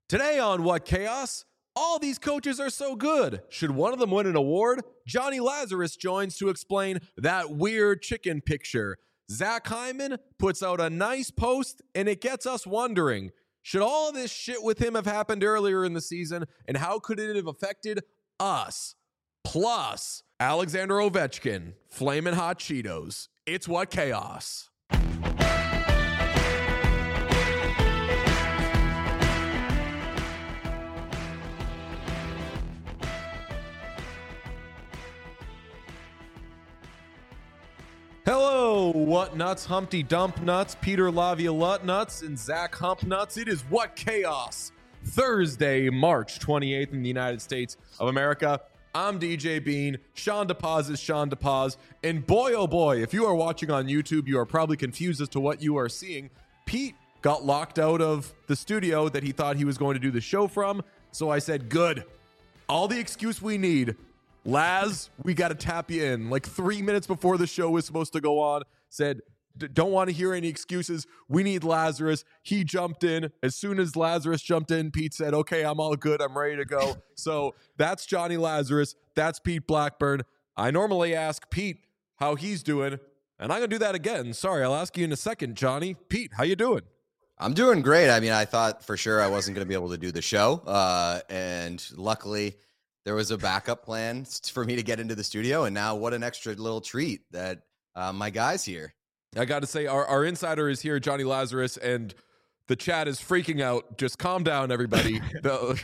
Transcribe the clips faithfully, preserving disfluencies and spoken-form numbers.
Today on What Chaos? All these coaches are so good. Should one of them win an award? Johnny Lazarus joins to explain that weird chicken picture. Zach Hyman puts out a nice post, and it gets us wondering, should all this shit with him have happened earlier in the season, and how could it have affected us? Plus, Alexander Ovechkin, Flamin' Hot Cheetos. It's What Chaos. Hello, What Nuts, Humpty Dump Nuts, Peter Laviolette Nuts, and Zach Hump Nuts. It is What Chaos, Thursday, March twenty-eighth in the United States of America. I'm D J Bean. Sean DePaz is Sean DePaz. And boy, oh boy, if you are watching on YouTube, you are probably confused as to what you are seeing. Pete got locked out of the studio that he thought he was going to do the show from. So I said, good. All the excuse we need. Laz, we got to tap you in. Like three minutes before the show was supposed to go on, said, don't want to hear any excuses. We need Lazarus. He jumped in. As soon as Lazarus jumped in, Pete said, okay, I'm all good. I'm ready to go. So that's Johnny Lazarus. That's Pete Blackburn. I normally ask Pete how he's doing, and I'm going to do that again. Sorry, I'll ask you in a second, Johnny. Pete, how you doing? I'm doing great. I mean, I thought for sure I wasn't going to be able to do the show, uh, and luckily there was a backup plan for me to get into the studio, and now what an extra little treat that uh, my guy's here. I got to say, our, our insider is here, Johnny Lazarus, and the chat is freaking out. Just calm down, everybody. the,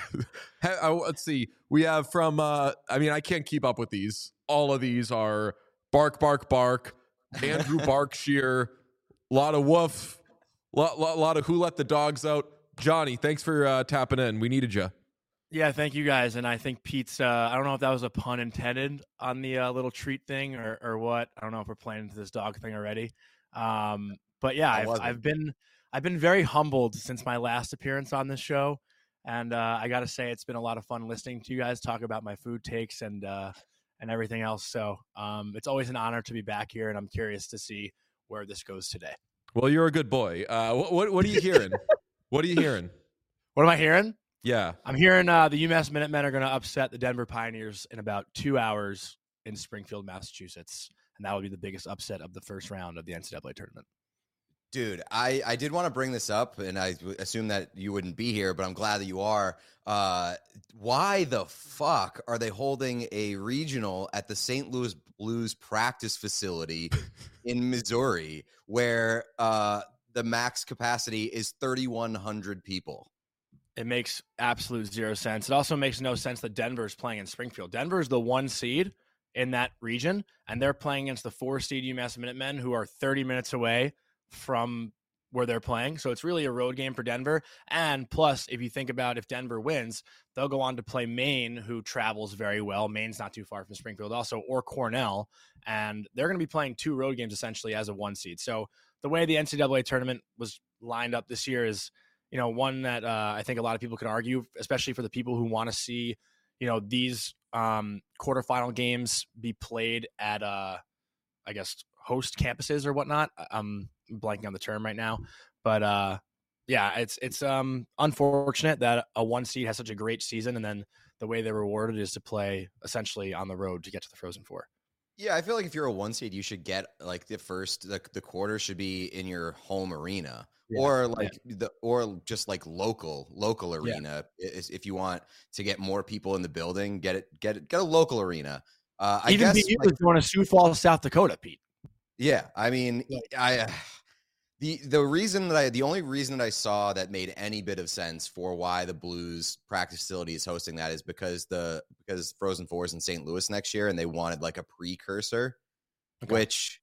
let's see. We have from, uh, I mean, I can't keep up with these. All of these are bark, bark, bark, Andrew Barkshire, a lot of woof, a lot, lot, lot of who let the dogs out. Johnny, thanks for uh, tapping in. We needed you. Yeah, thank you guys. And I think Pete's, uh, I don't know if that was a pun intended on the uh, little treat thing or, or what. I don't know if we're playing into this dog thing already. Um, but yeah, I've, I've been, I've been very humbled since my last appearance on this show. And uh, I got to say, it's been a lot of fun listening to you guys talk about my food takes and, uh, and everything else. So um, it's always an honor to be back here. And I'm curious to see where this goes today. Well, you're a good boy. Uh, what, what, what are you hearing? What are you hearing? What am I hearing? Yeah. I'm hearing uh, the UMass Minutemen are going to upset the Denver Pioneers in about two hours in Springfield, Massachusetts. And that will be the biggest upset of the first round of the N C double A tournament. Dude, I, I did want to bring this up, and I assume that you wouldn't be here, but I'm glad that you are. Uh, why the fuck are they holding a regional at the Saint Louis Blues practice facility in Missouri where uh, the max capacity is thirty-one hundred people? It makes absolute zero sense. It also makes no sense that Denver is playing in Springfield. Denver is the one seed in that region, and they're playing against the four seed UMass Minutemen, who are thirty minutes away from where they're playing. So it's really a road game for Denver. And plus, if you think about if Denver wins, they'll go on to play Maine, who travels very well. Maine's not too far from Springfield also, or Cornell. And they're going to be playing two road games essentially as a one seed. So the way the N C double A tournament was lined up this year is, you know, one that uh, I think a lot of people could argue, especially for the people who want to see, you know, these um, quarterfinal games be played at, uh, I guess, host campuses or whatnot. I'm blanking on the term right now, but uh, yeah, it's it's um, unfortunate that a one seed has such a great season, and then the way they're rewarded is to play essentially on the road to get to the Frozen Four. Yeah, I feel like if you're a one seed, you should get like the first the, the quarter should be in your home arena. Yeah, or like yeah. the or just like local local arena. Yeah. If you want to get more people in the building, get it get it, get a local arena. Uh, I Even guess you like, was going to Sioux Falls, South Dakota, Pete. Yeah, I mean, I uh, the the reason that I the only reason that I saw that made any bit of sense for why the Blues practice facility is hosting that is because the because Frozen Four is in Saint Louis next year, and they wanted like a precursor, okay. which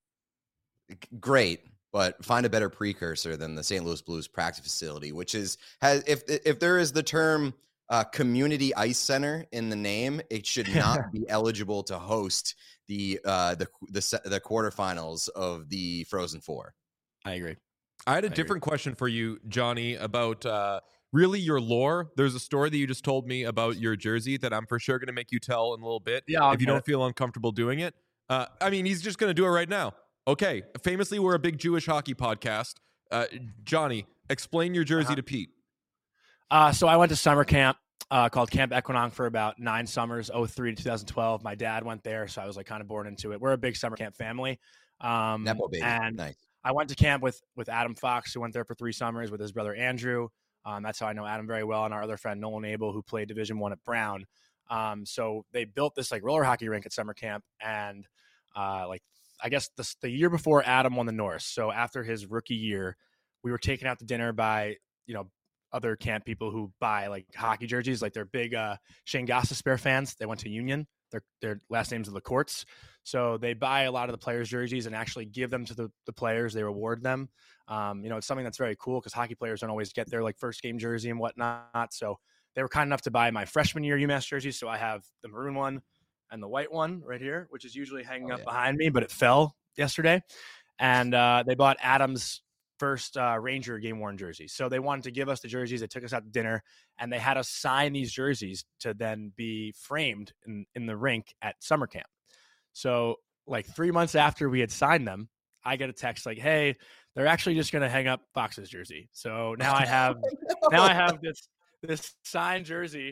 great. But find a better precursor than the Saint Louis Blues practice facility, which is has if if there is the term uh, community ice center in the name, it should not be eligible to host the uh, the the the quarterfinals of the Frozen Four. I agree. I had a I different agree. question for you, Johnny, about uh, really your lore. There's a story that you just told me about your jersey that I'm for sure going to make you tell in a little bit. Yeah, if you don't feel uncomfortable doing it. Uh, I mean, he's just going to do it right now. Okay, famously, we're a big Jewish hockey podcast. Uh, Johnny, explain your jersey uh-huh. to Pete. Uh, so I went to summer camp uh, called Camp Equinong for about nine summers, oh three to twenty twelve. My dad went there, so I was like kind of born into it. We're a big summer camp family. Um, Nepo baby. And Nice. I went to camp with with Adam Fox, who went there for three summers with his brother Andrew. Um, that's how I know Adam very well, and our other friend Nolan Abel, who played Division One at Brown. Um, so they built this like roller hockey rink at summer camp, and uh, like I guess the, the year before Adam won the Norris. So after his rookie year, we were taken out to dinner by you know other camp people who buy like hockey jerseys, like they're big uh, Shane Gostisbehere fans. They went to Union. Their their last names are the Courts. So they buy a lot of the players' jerseys and actually give them to the, the players. They reward them. Um, you know, it's something that's very cool because hockey players don't always get their like first game jersey and whatnot. So they were kind enough to buy my freshman year UMass jersey. So I have the maroon one and the white one right here, which is usually hanging Oh, up yeah. behind me, but it fell yesterday. And uh, they bought Adam's first uh, Ranger game worn jersey. So they wanted to give us the jerseys. They took us out to dinner and they had us sign these jerseys to then be framed in, in the rink at summer camp. So like three months after we had signed them, I get a text like, hey, they're actually just going to hang up Fox's jersey. So now I have, now I have this, this signed jersey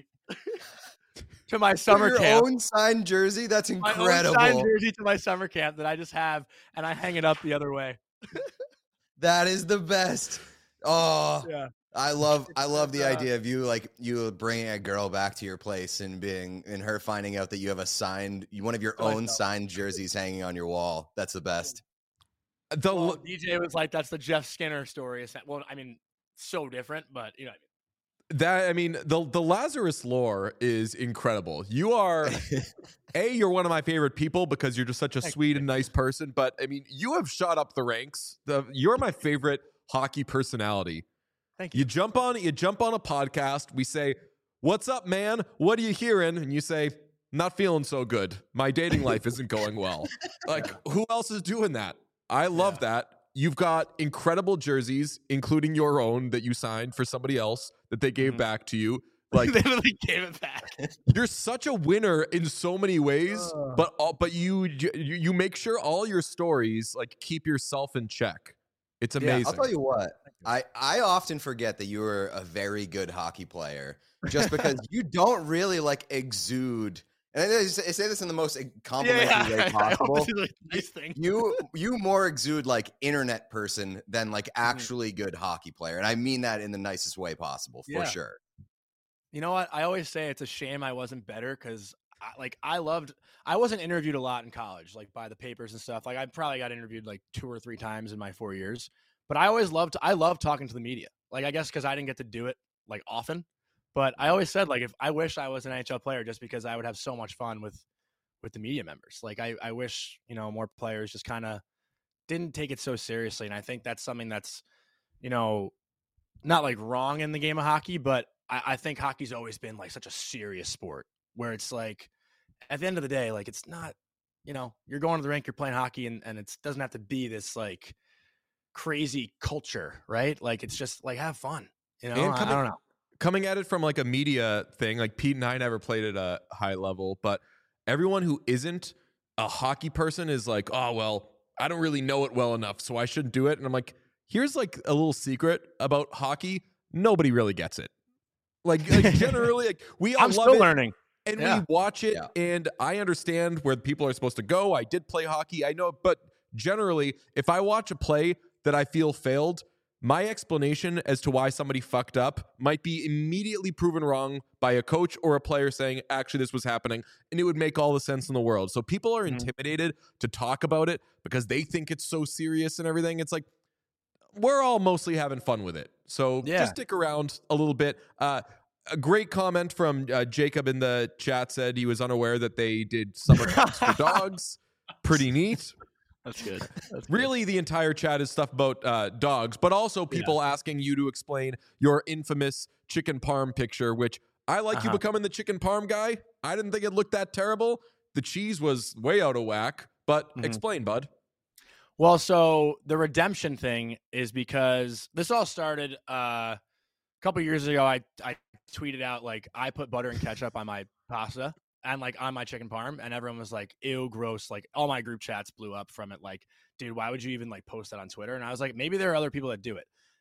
to my summer Your camp. own signed jersey? That's My incredible. own signed jersey to my summer camp that I just have, and I hang it up the other way. That is the best. Oh, Yeah. I love I love the Uh, idea of you like you bringing a girl back to your place and being and her finding out that you have a signed one of your That's own dope. signed jerseys hanging on your wall. That's the best. The Well, D J was like, that's the Jeff Skinner story. Well, I mean, so different, but you know what I mean. that I mean the the Lazarus lore is incredible. You are A, you're one of my favorite people because you're just such a Thank sweet you. and nice person. But I mean, you have shot up the ranks. The you're my favorite hockey personality. Thank you. You jump on you jump on a podcast. We say, "What's up, man? What are you hearing?" And you say, "Not feeling so good. My dating life isn't going well." Like, who else is doing that? I love Yeah. that. You've got incredible jerseys, including your own that you signed for somebody else that they gave Mhm. back to you. Like, They literally gave it back. you're such a winner in so many ways, Ugh. but all, but you, you you make sure all your stories like keep yourself in check. It's Yeah, I'll amazing. I'll tell you what. I, I often forget that you are a very good hockey player just because you don't really like exude. And I say I say this in the most complimentary way I hope possible. this is a nice thing. You you more exude like internet person than like Mm-hmm. actually good hockey player, and I mean that in the nicest way possible for Yeah. sure. You know what? I always say it's a shame I wasn't better because, like, I loved. I wasn't interviewed a lot in college, like by the papers and stuff. Like, I probably got interviewed like two or three times in my four years. But I always loved. I loved talking to the media. Like, I guess because I didn't get to do it like often. But I always said, like, if I wish I was an N H L player, just because I would have so much fun with with the media members. Like, I I wish you know more players just kind of didn't take it so seriously. And I think that's something that's, you know, not like wrong in the game of hockey, but I, I think hockey's always been like such a serious sport where it's like at the end of the day, like it's not, you know, you're going to the rink, you're playing hockey, and, and it doesn't have to be this like crazy culture, right? Like it's just like have fun, you know. And I, coming- I don't know. Coming at it from like a media thing, like Pete and I never played at a high level, but everyone who isn't a hockey person is like, oh, well, I don't really know it well enough, so I shouldn't do it. And I'm like, here's like a little secret about hockey. Nobody really gets it. Like, like generally, like we all I'm love still it. learning. And Yeah. we watch it, Yeah. and I understand where people are supposed to go. I did play hockey. I know, but generally, if I watch a play that I feel failed, my explanation as to why somebody fucked up might be immediately proven wrong by a coach or a player saying, actually, this was happening, and it would make all the sense in the world. So people are Mhm. intimidated to talk about it because they think it's so serious and everything. It's like, we're all mostly having fun with it. So Yeah. just stick around a little bit. Uh, a great comment from uh, Jacob in the chat said he was unaware that they did summer camps for dogs. Pretty neat. That's good. That's good. Really, the entire chat is stuff about uh, dogs, but also people asking you to explain your infamous chicken parm picture, which I like you Uh-huh. becoming the chicken parm guy. I didn't think it looked that terrible. The cheese was way out of whack, but Mhm. explain, bud. Well, so the redemption thing is because this all started uh, a couple years ago. I I tweeted out like I put butter and ketchup on my pasta and like on my chicken parm, and everyone was like, "Ew, gross!" Like all my group chats blew up from it. Like, dude, why would you even like post that on Twitter? And I was like, maybe there are other people that do it.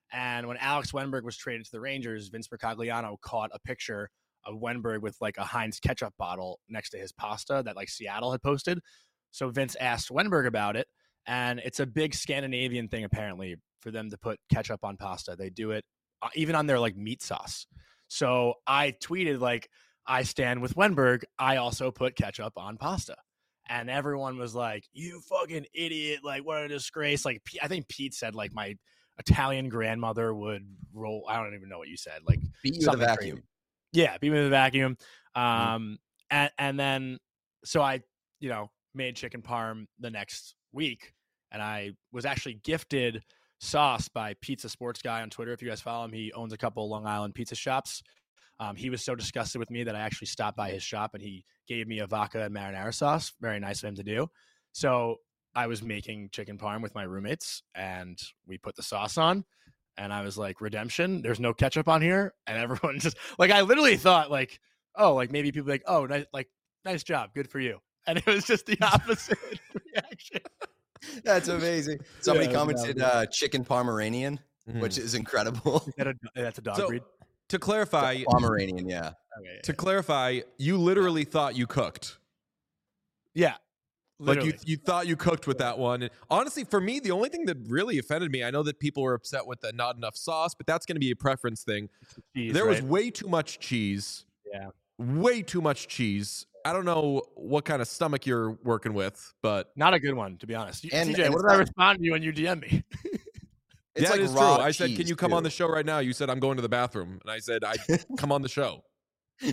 And when Alex Wenberg was traded to the Rangers, Vince Mercogliano caught a picture of Wenberg with like a Heinz ketchup bottle next to his pasta that like Seattle had posted. So Vince asked Wenberg about it. And it's a big Scandinavian thing, apparently, for them to put ketchup on pasta. They do it uh, even on their like meat sauce. So I tweeted like, I stand with Wenberg. I also put ketchup on pasta. And everyone was like, you fucking idiot. Like, what a disgrace. Like, I think Pete said like my Italian grandmother would roll. I don't even know what you said. Like, beat you with a vacuum. Crazy. Yeah, beat me with a vacuum. Um, mm-hmm. and, and then, so I, you know, made chicken parm the next week. And I was actually gifted sauce by Pizza Sports Guy on Twitter. If you guys follow him, he owns a couple Long Island pizza shops. Um, he was so disgusted with me that I actually stopped by his shop and he gave me a vodka and marinara sauce. Very nice of him to do. So I was making chicken parm with my roommates and we put the sauce on and I was like, redemption, there's no ketchup on here. And everyone just like, I literally thought like, oh, like maybe people like, oh, nice, like nice job. Good for you. And it was just the opposite reaction. That's amazing. Somebody Yeah, commented uh, chicken Pomeranian, mm-hmm. which is incredible. Is that a, that's a dog so, breed. To clarify, Pomeranian, yeah. Okay, yeah. To clarify, you literally thought you cooked. Yeah. Literally. Like you, you thought you cooked with that one. And honestly, for me, the only thing that really offended me, I know that people were upset with the not enough sauce, but that's going to be a preference thing. Cheese, there right? was way too much cheese. Yeah. Way too much cheese. I don't know what kind of stomach you're working with, but not a good one, to be honest. And, T J, and what did not, I respond to you when you D M me? It's yeah, like it is true. I said, "Can you come too. on the show right now?" You said, "I'm going to the bathroom," and I said, "I come on the show." Well,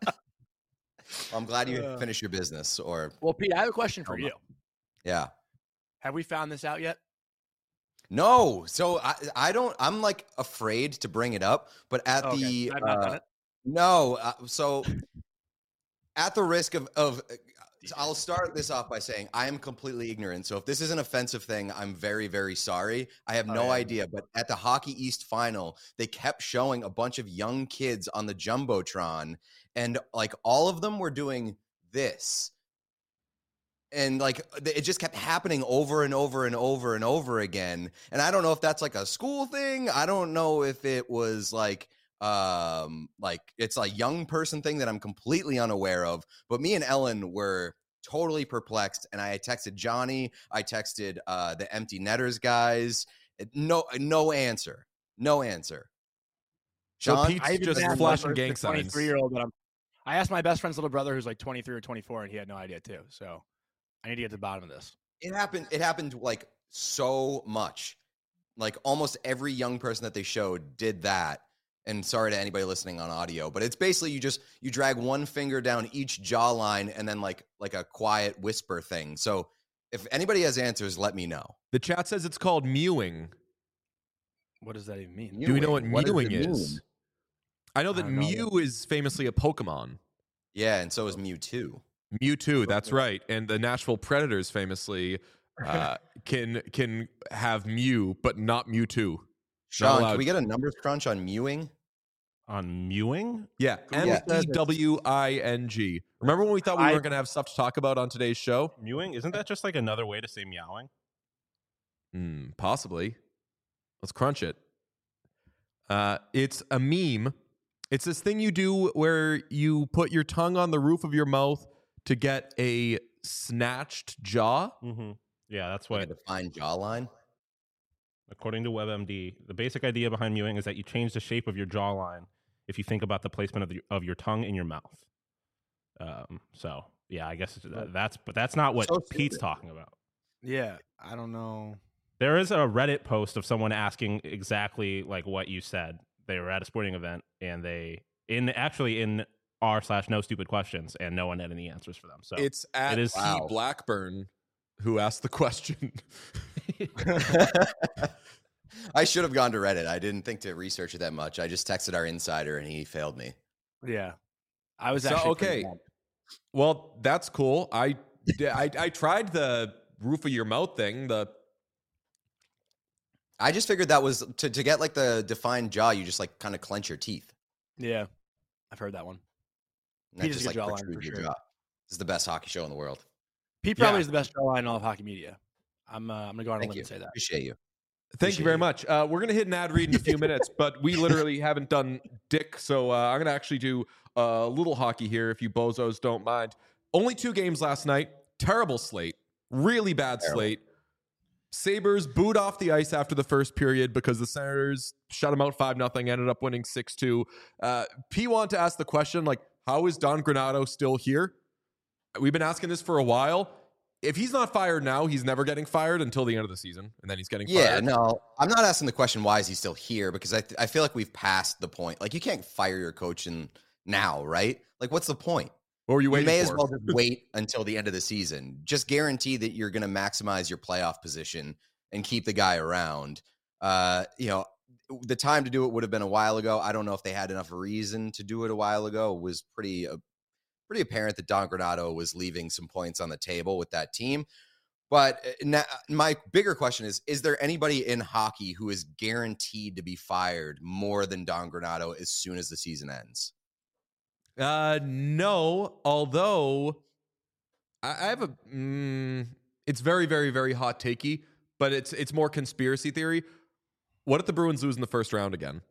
I'm glad you uh, finished your business. Or well, Pete, I have a question for you. Yeah. Have we found this out yet? No. So I, I don't. I'm like afraid to bring it up, but at oh, the okay. uh, no. Uh, so at the risk of of. I'll start this off by saying I am completely ignorant. So if this is an offensive thing, I'm very, very sorry. I have no oh, yeah. idea. But at the Hockey East final, they kept showing a bunch of young kids on the Jumbotron. And like all of them were doing this. And like it just kept happening over and over and over and over again. And I don't know if that's like a school thing. I don't know if it was like um like it's a young person thing that I'm completely unaware of, but me and Ellen were totally perplexed, and I texted Johnny, I texted uh the Empty Netters guys. No no answer no answer Sean, so Pete's just flashing gang signs. twenty-three year old that I'm I asked my best friend's little brother who's like twenty-three or twenty-four, and he had no idea too. So I need to get to the bottom of this. It happened it happened like so much. Like almost every young person that they showed did that. And sorry to anybody listening on audio, but it's basically you just you drag one finger down each jawline and then like like a quiet whisper thing. So if anybody has answers, let me know. The chat says it's called mewing. What does that even mean? Mewing. Do we know what, what mewing is? Mean? I know that I Mew know. is famously a Pokemon. Yeah, and so is Mewtwo. Mewtwo, that's right. And the Nashville Predators famously uh, can can have Mew, but not Mewtwo. Sean, can we get a numbers crunch on mewing? On mewing? Yeah, M E W I N G. Remember when we thought we I, weren't going to have stuff to talk about on today's show? Mewing? Isn't that just like another way to say meowing? Mm, possibly. Let's crunch it. Uh, it's a meme. It's this thing you do where you put your tongue on the roof of your mouth to get a snatched jaw. Mm-hmm. Yeah, that's what... Like a defined jawline? According to WebMD, the basic idea behind mewing is that you change the shape of your jawline if you think about the placement of, the, of your tongue in your mouth. Um, so, yeah, I guess that's but that's not what so Pete's talking about. Yeah, I don't know. There is a Reddit post of someone asking exactly like what you said. They were at a sporting event, and they in actually in r slash no stupid questions, and no one had any answers for them. So it's at it is P. Wow. Blackburn who asked the question. I should have gone to Reddit. I didn't think to research it that much. I just texted our insider and he failed me. Yeah. I was so, actually okay. Well, that's cool. I, I I tried the roof of your mouth thing. The I just figured that was to, to get like the defined jaw, you just like kind of clench your teeth. Yeah. I've heard that one. And that just like protrude your sure. jaw. This is the best hockey show in the world. Pete probably yeah. is the best jawline in all of hockey media. I'm uh, I'm gonna go on a limb and say that. Appreciate you. Thank you very much. Uh, we're going to hit an ad read in a few minutes, but we literally haven't done dick. So uh, I'm going to actually do a little hockey here if you bozos don't mind. Only two games last night. Terrible slate. Really bad Terrible. slate. Sabres booed off the ice after the first period because the Senators shut them out five nothing, ended up winning six two. Uh, P wanted to ask the question, like, how is Don Granato still here? We've been asking this for a while. If he's not fired now, he's never getting fired until the end of the season, and then he's getting yeah, fired. Yeah, no, I'm not asking the question, why is he still here? Because I, th- I feel like we've passed the point. Like, you can't fire your coach in now, right? Like, what's the point? What were you waiting You may for? as well just wait until the end of the season. Just guarantee that you're going to maximize your playoff position and keep the guy around. Uh, you know, the time to do it would have been a while ago. I don't know if they had enough reason to do it a while ago. It was pretty, uh, pretty apparent that Don Granato was leaving some points on the table with that team. But now, my bigger question is, is there anybody in hockey who is guaranteed to be fired more than Don Granato as soon as the season ends? Uh, no, although I, I have a, mm, it's very, very, very hot takey, but it's it's more conspiracy theory. What if the Bruins lose in the first round again?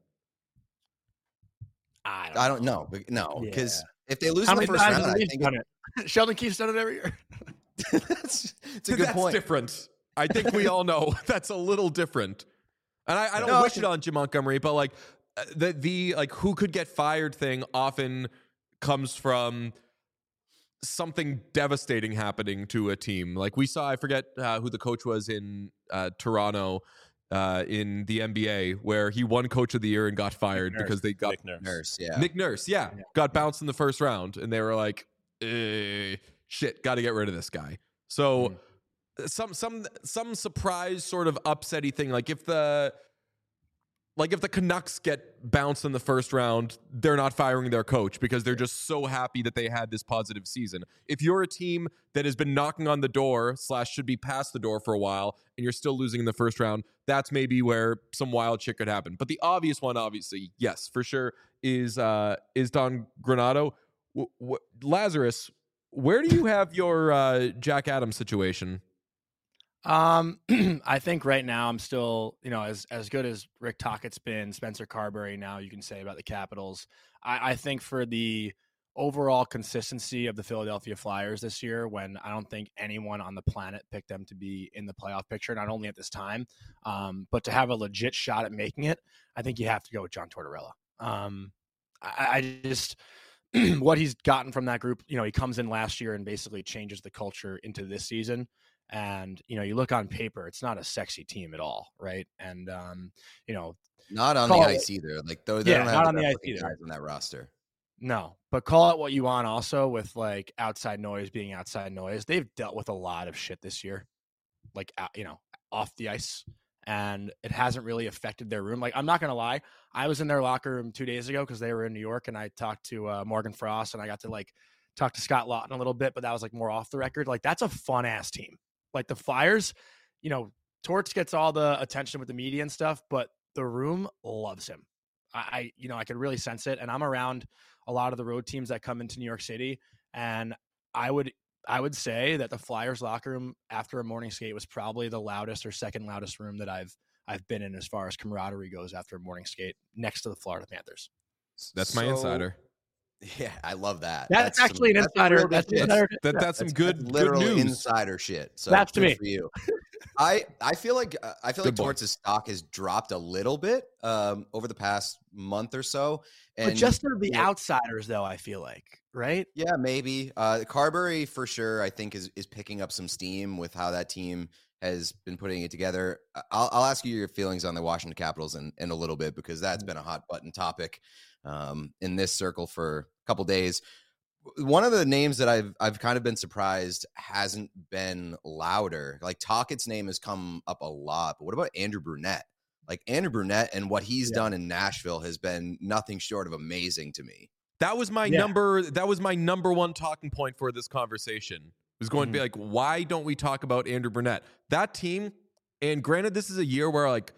I don't, I don't know. No, because Yeah. if they lose How in the many first times round, has I he think done it? Sheldon Keefe's done it every year. that's it's a good That's point. different. I think we all know that's a little different. And I, I don't No, wish I it on Jim Montgomery, but like uh, the the like who could get fired thing often comes from something devastating happening to a team. Like we saw, I forget uh, who the coach was in uh, Toronto uh, in the N B A, where he won Coach of the Year and got fired Nurse. because they got Nick Nurse. Nurse, yeah. Nick Nurse, yeah, Yeah. got bounced in the first round, and they were like, eh, "Shit, got to get rid of this guy." So Mm. some some some surprise sort of upsetty thing, like if the like if the Canucks get bounced in the first round, they're not firing their coach because they're just so happy that they had this positive season. If you're a team that has been knocking on the door slash should be past the door for a while and you're still losing in the first round, that's maybe where some wild shit could happen. But the obvious one, obviously, yes, for sure, is uh, is Don Granato. W- w- Lazarus, where do you have your uh, Jack Adams situation? Um, I think right now I'm still, you know, as as good as Rick Tockett's been, Spencer Carberry now you can say about the Capitals. I, I think for the overall consistency of the Philadelphia Flyers this year, when I don't think anyone on the planet picked them to be in the playoff picture, not only at this time, um, but to have a legit shot at making it, I think you have to go with John Tortorella. Um, I, I just what he's gotten from that group, you know, he comes in last year and basically changes the culture into this season. And, you know, you look on paper, it's not a sexy team at all, right? And, um, you know, Not on the Call ice either. Like, though, they Yeah, don't have not the on the best ice looking either. guys on that roster. no, but call it what you want also with like outside noise being outside noise. They've dealt with a lot of shit this year, like, uh, you know, off the ice, and it hasn't really affected their room. Like, I'm not going to lie. I was in their locker room two days ago because they were in New York, and I talked to uh, Morgan Frost, and I got to like talk to Scott Lawton a little bit, but that was like more off the record. Like, that's a fun ass team. Like the Flyers, you know, Torts gets all the attention with the media and stuff, but the room loves him. I, I, you know, I could really sense it. And I'm around a lot of the road teams that come into New York City. And I would, I would say that the Flyers locker room after a morning skate was probably the loudest or second loudest room that I've, I've been in as far as camaraderie goes after a morning skate next to the Florida Panthers. That's my So- insider. Yeah, I love that. That's, some- actually an that's insider. real That's, good shit. insider That, that's some That's- good, that's good literal news. insider shit. So That's to good me. for you. I I feel like uh, I feel Good like boy. Torts' stock has dropped a little bit um, over the past month or so. And but just for the you know, outsiders, though, I feel like, right? yeah, maybe uh, Carberry for sure. I think is is picking up some steam with how that team has been putting it together. I- I'll, I'll ask you your feelings on the Washington Capitals in, in a little bit because that's been a hot button topic um, in this circle for a couple days. One of the names that I've I've kind of been surprised hasn't been louder. Like Tockett's name has come up a lot, but what about Andrew Brunette? Like Andrew Brunette and what he's Yeah. done in Nashville has been nothing short of amazing to me. That was my Yeah. number. That was my number one talking point for this conversation. Was going to be like, why don't we talk about Andrew Burnett? That team, and granted, this is a year where like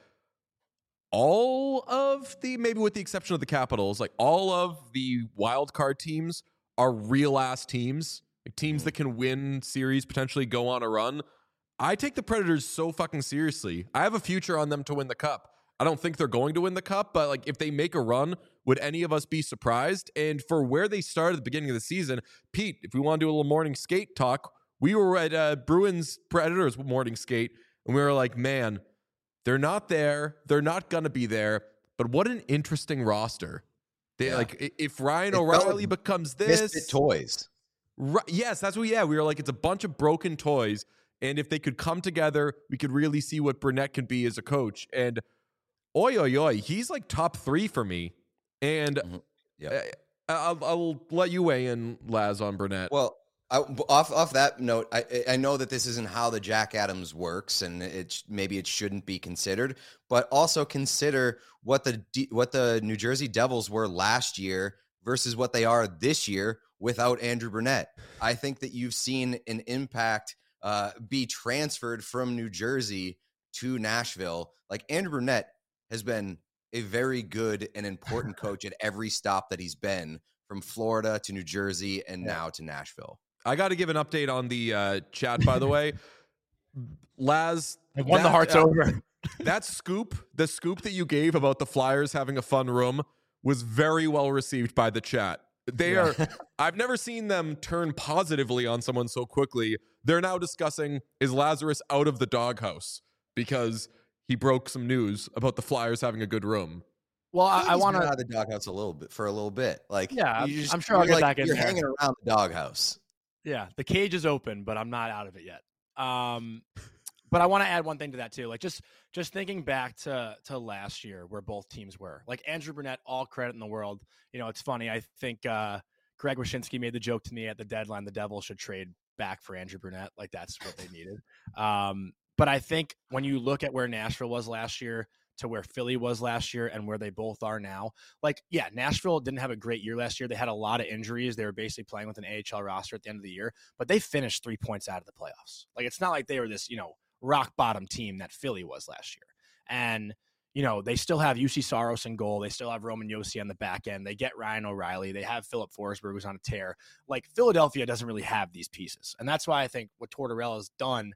all of the, maybe with the exception of the Capitals, like all of the wild card teams are real ass teams, like teams that can win series, potentially go on a run. I take the Predators so fucking seriously. I have a future on them to win the cup. I don't think they're going to win the cup, but like if they make a run, would any of us be surprised? And for where they started at the beginning of the season, Pete, if we want to do a little morning skate talk, we were at uh, Bruins Predators morning skate, and we were like, man, they're not there. They're not going to be there. But what an interesting roster. They yeah. like if Ryan it O'Reilly becomes this. Misfit toys. Right, yes, that's what, yeah. We were like, it's a bunch of broken toys. And if they could come together, we could really see what Burnett can be as a coach. And oi, oi, oi, he's like top three for me. And mm-hmm. yep. I'll, I'll let you weigh in, Laz, on Burnett. Well, I, off off that note, I I know that this isn't how the Jack Adams works, and it maybe it shouldn't be considered. But also consider what the what the New Jersey Devils were last year versus what they are this year without Andrew Burnett. I think that you've seen an impact uh, be transferred from New Jersey to Nashville. Like Andrew Burnett has been a very good and important coach at every stop that he's been, from Florida to New Jersey and yeah. now to Nashville. I got to give an update on the uh, chat, by the way. Laz, I won that, the hearts uh, over. That scoop, the scoop that you gave about the Flyers having a fun room was very well received by the chat. They yeah. are, I've never seen them turn positively on someone so quickly. They're now discussing, is Lazarus out of the doghouse? Because he broke some news about the Flyers having a good room. Well, I, I want to out of the doghouse a little bit for a little bit. Like, yeah, just, I'm sure I'll get like, back in You're there. hanging around the doghouse. Yeah, the cage is open, but I'm not out of it yet. Um, but I want to add one thing to that too. Like just just thinking back to to last year, where both teams were. Like Andrew Burnett, all credit in the world. You know, it's funny. I think uh, Greg Wyshynski made the joke to me at the deadline: the Devils should trade back for Andrew Burnett. Like that's what they needed. Um, but I think when you look at where Nashville was last year to where Philly was last year and where they both are now, like, yeah, Nashville didn't have a great year last year. They had a lot of injuries. They were basically playing with an A H L roster at the end of the year, but they finished three points out of the playoffs. Like, it's not like they were this, you know, rock bottom team that Philly was last year. And, you know, they still have U C Saros in goal. They still have Roman Josi on the back end. They get Ryan O'Reilly. They have Philip Forsberg, who's on a tear. Like, Philadelphia doesn't really have these pieces. And that's why I think what Tortorella's done,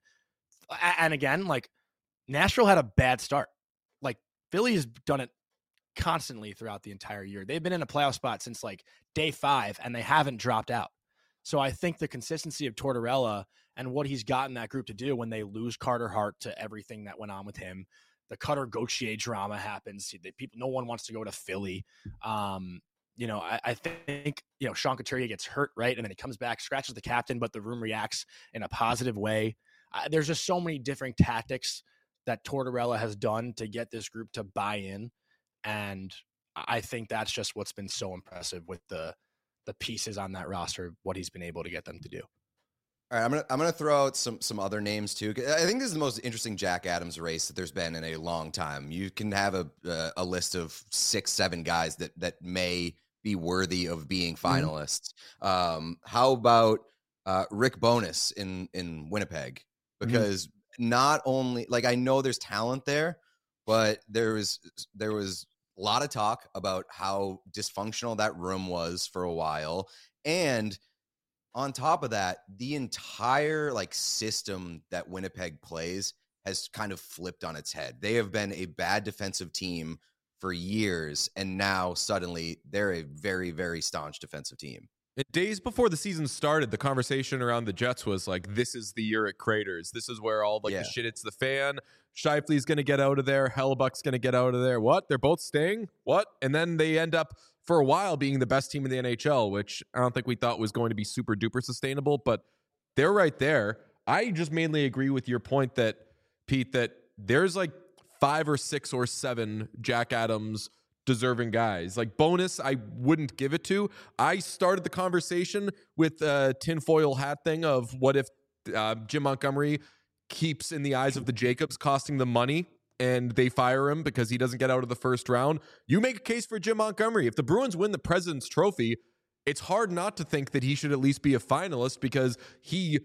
and again, like, Nashville had a bad start. Like, Philly has done it constantly throughout the entire year. They've been in a playoff spot since like day five, and they haven't dropped out. So I think the consistency of Tortorella and what he's gotten that group to do when they lose Carter Hart to everything that went on with him, the Cutter Gauthier drama happens. People, no one wants to go to Philly. Um, you know, I, I think, you know, Sean Couturier gets hurt, right? And then he comes back, scratches the captain, but the room reacts in a positive way. Uh, there's just so many different tactics that Tortorella has done to get this group to buy in. And I think that's just what's been so impressive with the the pieces on that roster, what he's been able to get them to do. All right, I'm gonna I'm gonna throw out some some other names too. I think this is the most interesting Jack Adams race that there's been in a long time. You can have a uh, a list of six, seven guys that that may be worthy of being finalists. Mm-hmm. Um, how about uh, Rick Bowness in in Winnipeg? Because mm-hmm. not only, like, I know there's talent there, but there was there was a lot of talk about how dysfunctional that room was for a while, and on top of that, the entire like system that Winnipeg plays has kind of flipped on its head. They have been a bad defensive team for years, and now suddenly they're a very, very staunch defensive team. Days before the season started, the conversation around the Jets was like, this is the year it craters. This is where all like yeah. the shit hits the fan. Scheifele's going to get out of there. Hellebuyck's going to get out of there. What? They're both staying? What? And then they end up for a while being the best team in the N H L, which I don't think we thought was going to be super duper sustainable, but they're right there. I just mainly agree with your point that, Pete, that there's like five or six or seven Jack Adams deserving guys. Like Bowness, I wouldn't give it to. I started the conversation with a tinfoil hat thing of what if uh, Jim Montgomery keeps, in the eyes of the Jacobs, costing them money and they fire him because he doesn't get out of the first round. You make a case for Jim Montgomery. If the Bruins win the President's Trophy, it's hard not to think that he should at least be a finalist because he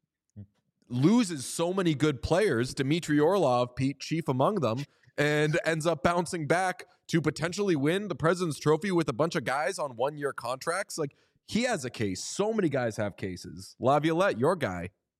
loses so many good players, Dmitry Orlov, Pete, chief among them, and ends up bouncing back to potentially win the President's Trophy with a bunch of guys on one-year contracts. Like, he has a case. So many guys have cases. Laviolette, your guy.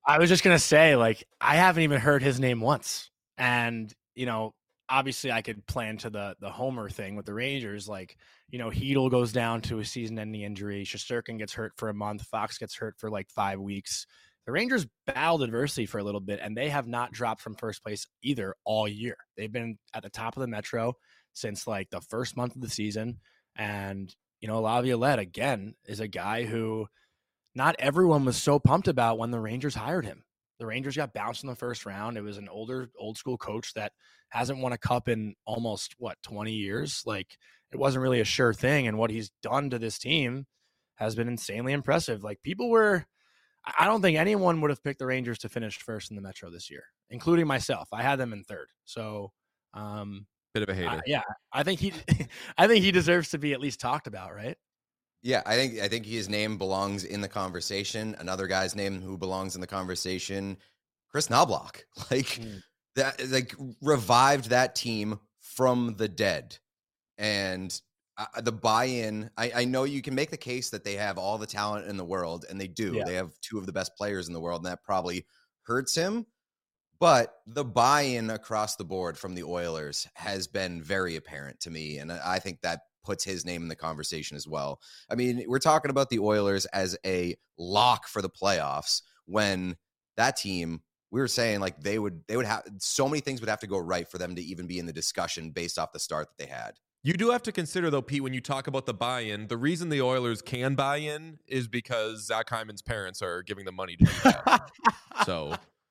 I was just gonna say, like, I haven't even heard his name once, and you know, obviously, I could plan to the the Homer thing with the Rangers. Like, you know, Hedel goes down to a season-ending injury. Shesterkin gets hurt for a month. Fox gets hurt for like five weeks. The Rangers battled adversity for a little bit, and they have not dropped from first place either all year. They've been at the top of the Metro since like the first month of the season. And, you know, Laviolette, again, is a guy who not everyone was so pumped about when the Rangers hired him. The Rangers got bounced in the first round. It was an older, old school coach that hasn't won a cup in almost, what, twenty years? Like, it wasn't really a sure thing. And what he's done to this team has been insanely impressive. Like, people were... I don't think anyone would have picked the Rangers to finish first in the Metro this year, including myself. I had them in third. So, um, bit of a hater. Uh, yeah, I think he, I think he deserves to be at least talked about, right? Yeah, I think I think his name belongs in the conversation. Another guy's name who belongs in the conversation, Chris Knobloch. Like mm. that, like revived that team from the dead, and. Uh, the buy-in, I, I know you can make the case that they have all the talent in the world, and they do. Yeah. They have two of the best players in the world, and that probably hurts him. But the buy-in across the board from the Oilers has been very apparent to me, and I think that puts his name in the conversation as well. I mean, we're talking about the Oilers as a lock for the playoffs when that team, we were saying like they would they would have so many things would have to go right for them to even be in the discussion based off the start that they had. You do have to consider, though, Pete, when you talk about the buy-in, the reason the Oilers can buy in is because Zach Hyman's parents are giving them money to do that. So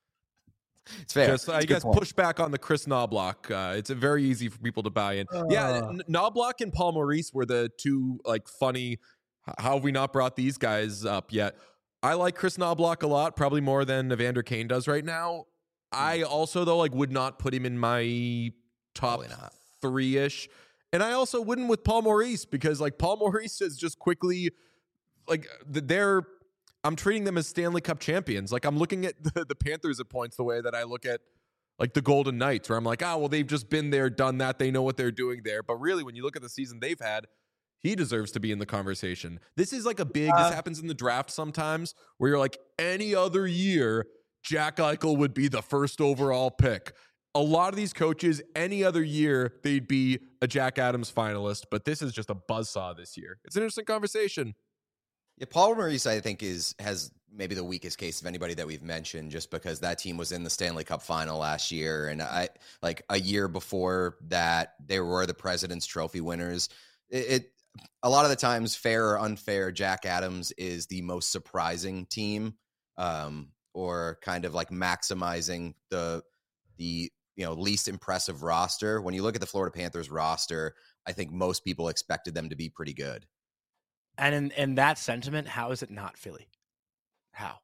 it's fair. Just, I guess, push back on the Chris Knobloch. Uh, it's a very easy for people to buy in. Uh, yeah, N- Knobloch and Paul Maurice were the two, like, funny. How have we not brought these guys up yet? I like Chris Knobloch a lot, probably more than Evander Kane does right now. I also, though, like, would not put him in my top three-ish. And I also wouldn't with Paul Maurice because, like, Paul Maurice is just quickly, like, they're, I'm treating them as Stanley Cup champions. Like, I'm looking at the, the Panthers at points the way that I look at, like, the Golden Knights, where I'm like, oh, well, they've just been there, done that. They know what they're doing there. But really, when you look at the season they've had, he deserves to be in the conversation. This is like a big, uh, this happens in the draft sometimes, where you're like, any other year, Jack Eichel would be the first overall pick. A lot of these coaches, any other year, they'd be a Jack Adams finalist, but this is just a buzzsaw this year. It's an interesting conversation. Yeah, Paul Maurice, I think, is has maybe the weakest case of anybody that we've mentioned, just because that team was in the Stanley Cup final last year, and I like a year before that, they were the President's Trophy winners. It, it a lot of the times, fair or unfair, Jack Adams is the most surprising team, um, or kind of like maximizing the the. you know, least impressive roster. When you look at the Florida Panthers roster, I think most people expected them to be pretty good. And in, in that sentiment, how is it not Philly? How?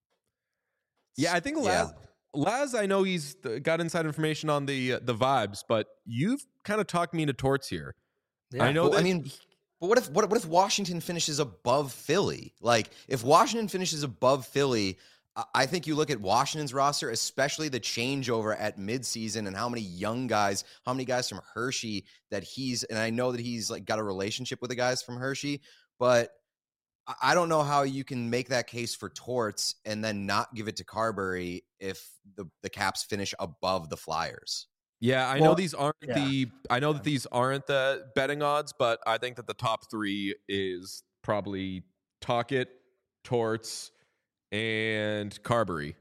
Yeah, I think Laz, yeah. Laz, I know he's got inside information on the uh, the vibes, but you've kind of talked me into Torts here. Yeah. I know well, that. I mean, but what if what, what if Washington finishes above Philly? Like, if Washington finishes above Philly, I think you look at Washington's roster, especially the changeover at midseason and how many young guys, how many guys from Hershey that he's, and I know that he's like got a relationship with the guys from Hershey, but I don't know how you can make that case for Torts and then not give it to Carberry if the, the Caps finish above the Flyers. Yeah, I well, know these aren't yeah. the, I know that these aren't the betting odds, but I think that the top three is probably Tocchet, Torts, and Carberry.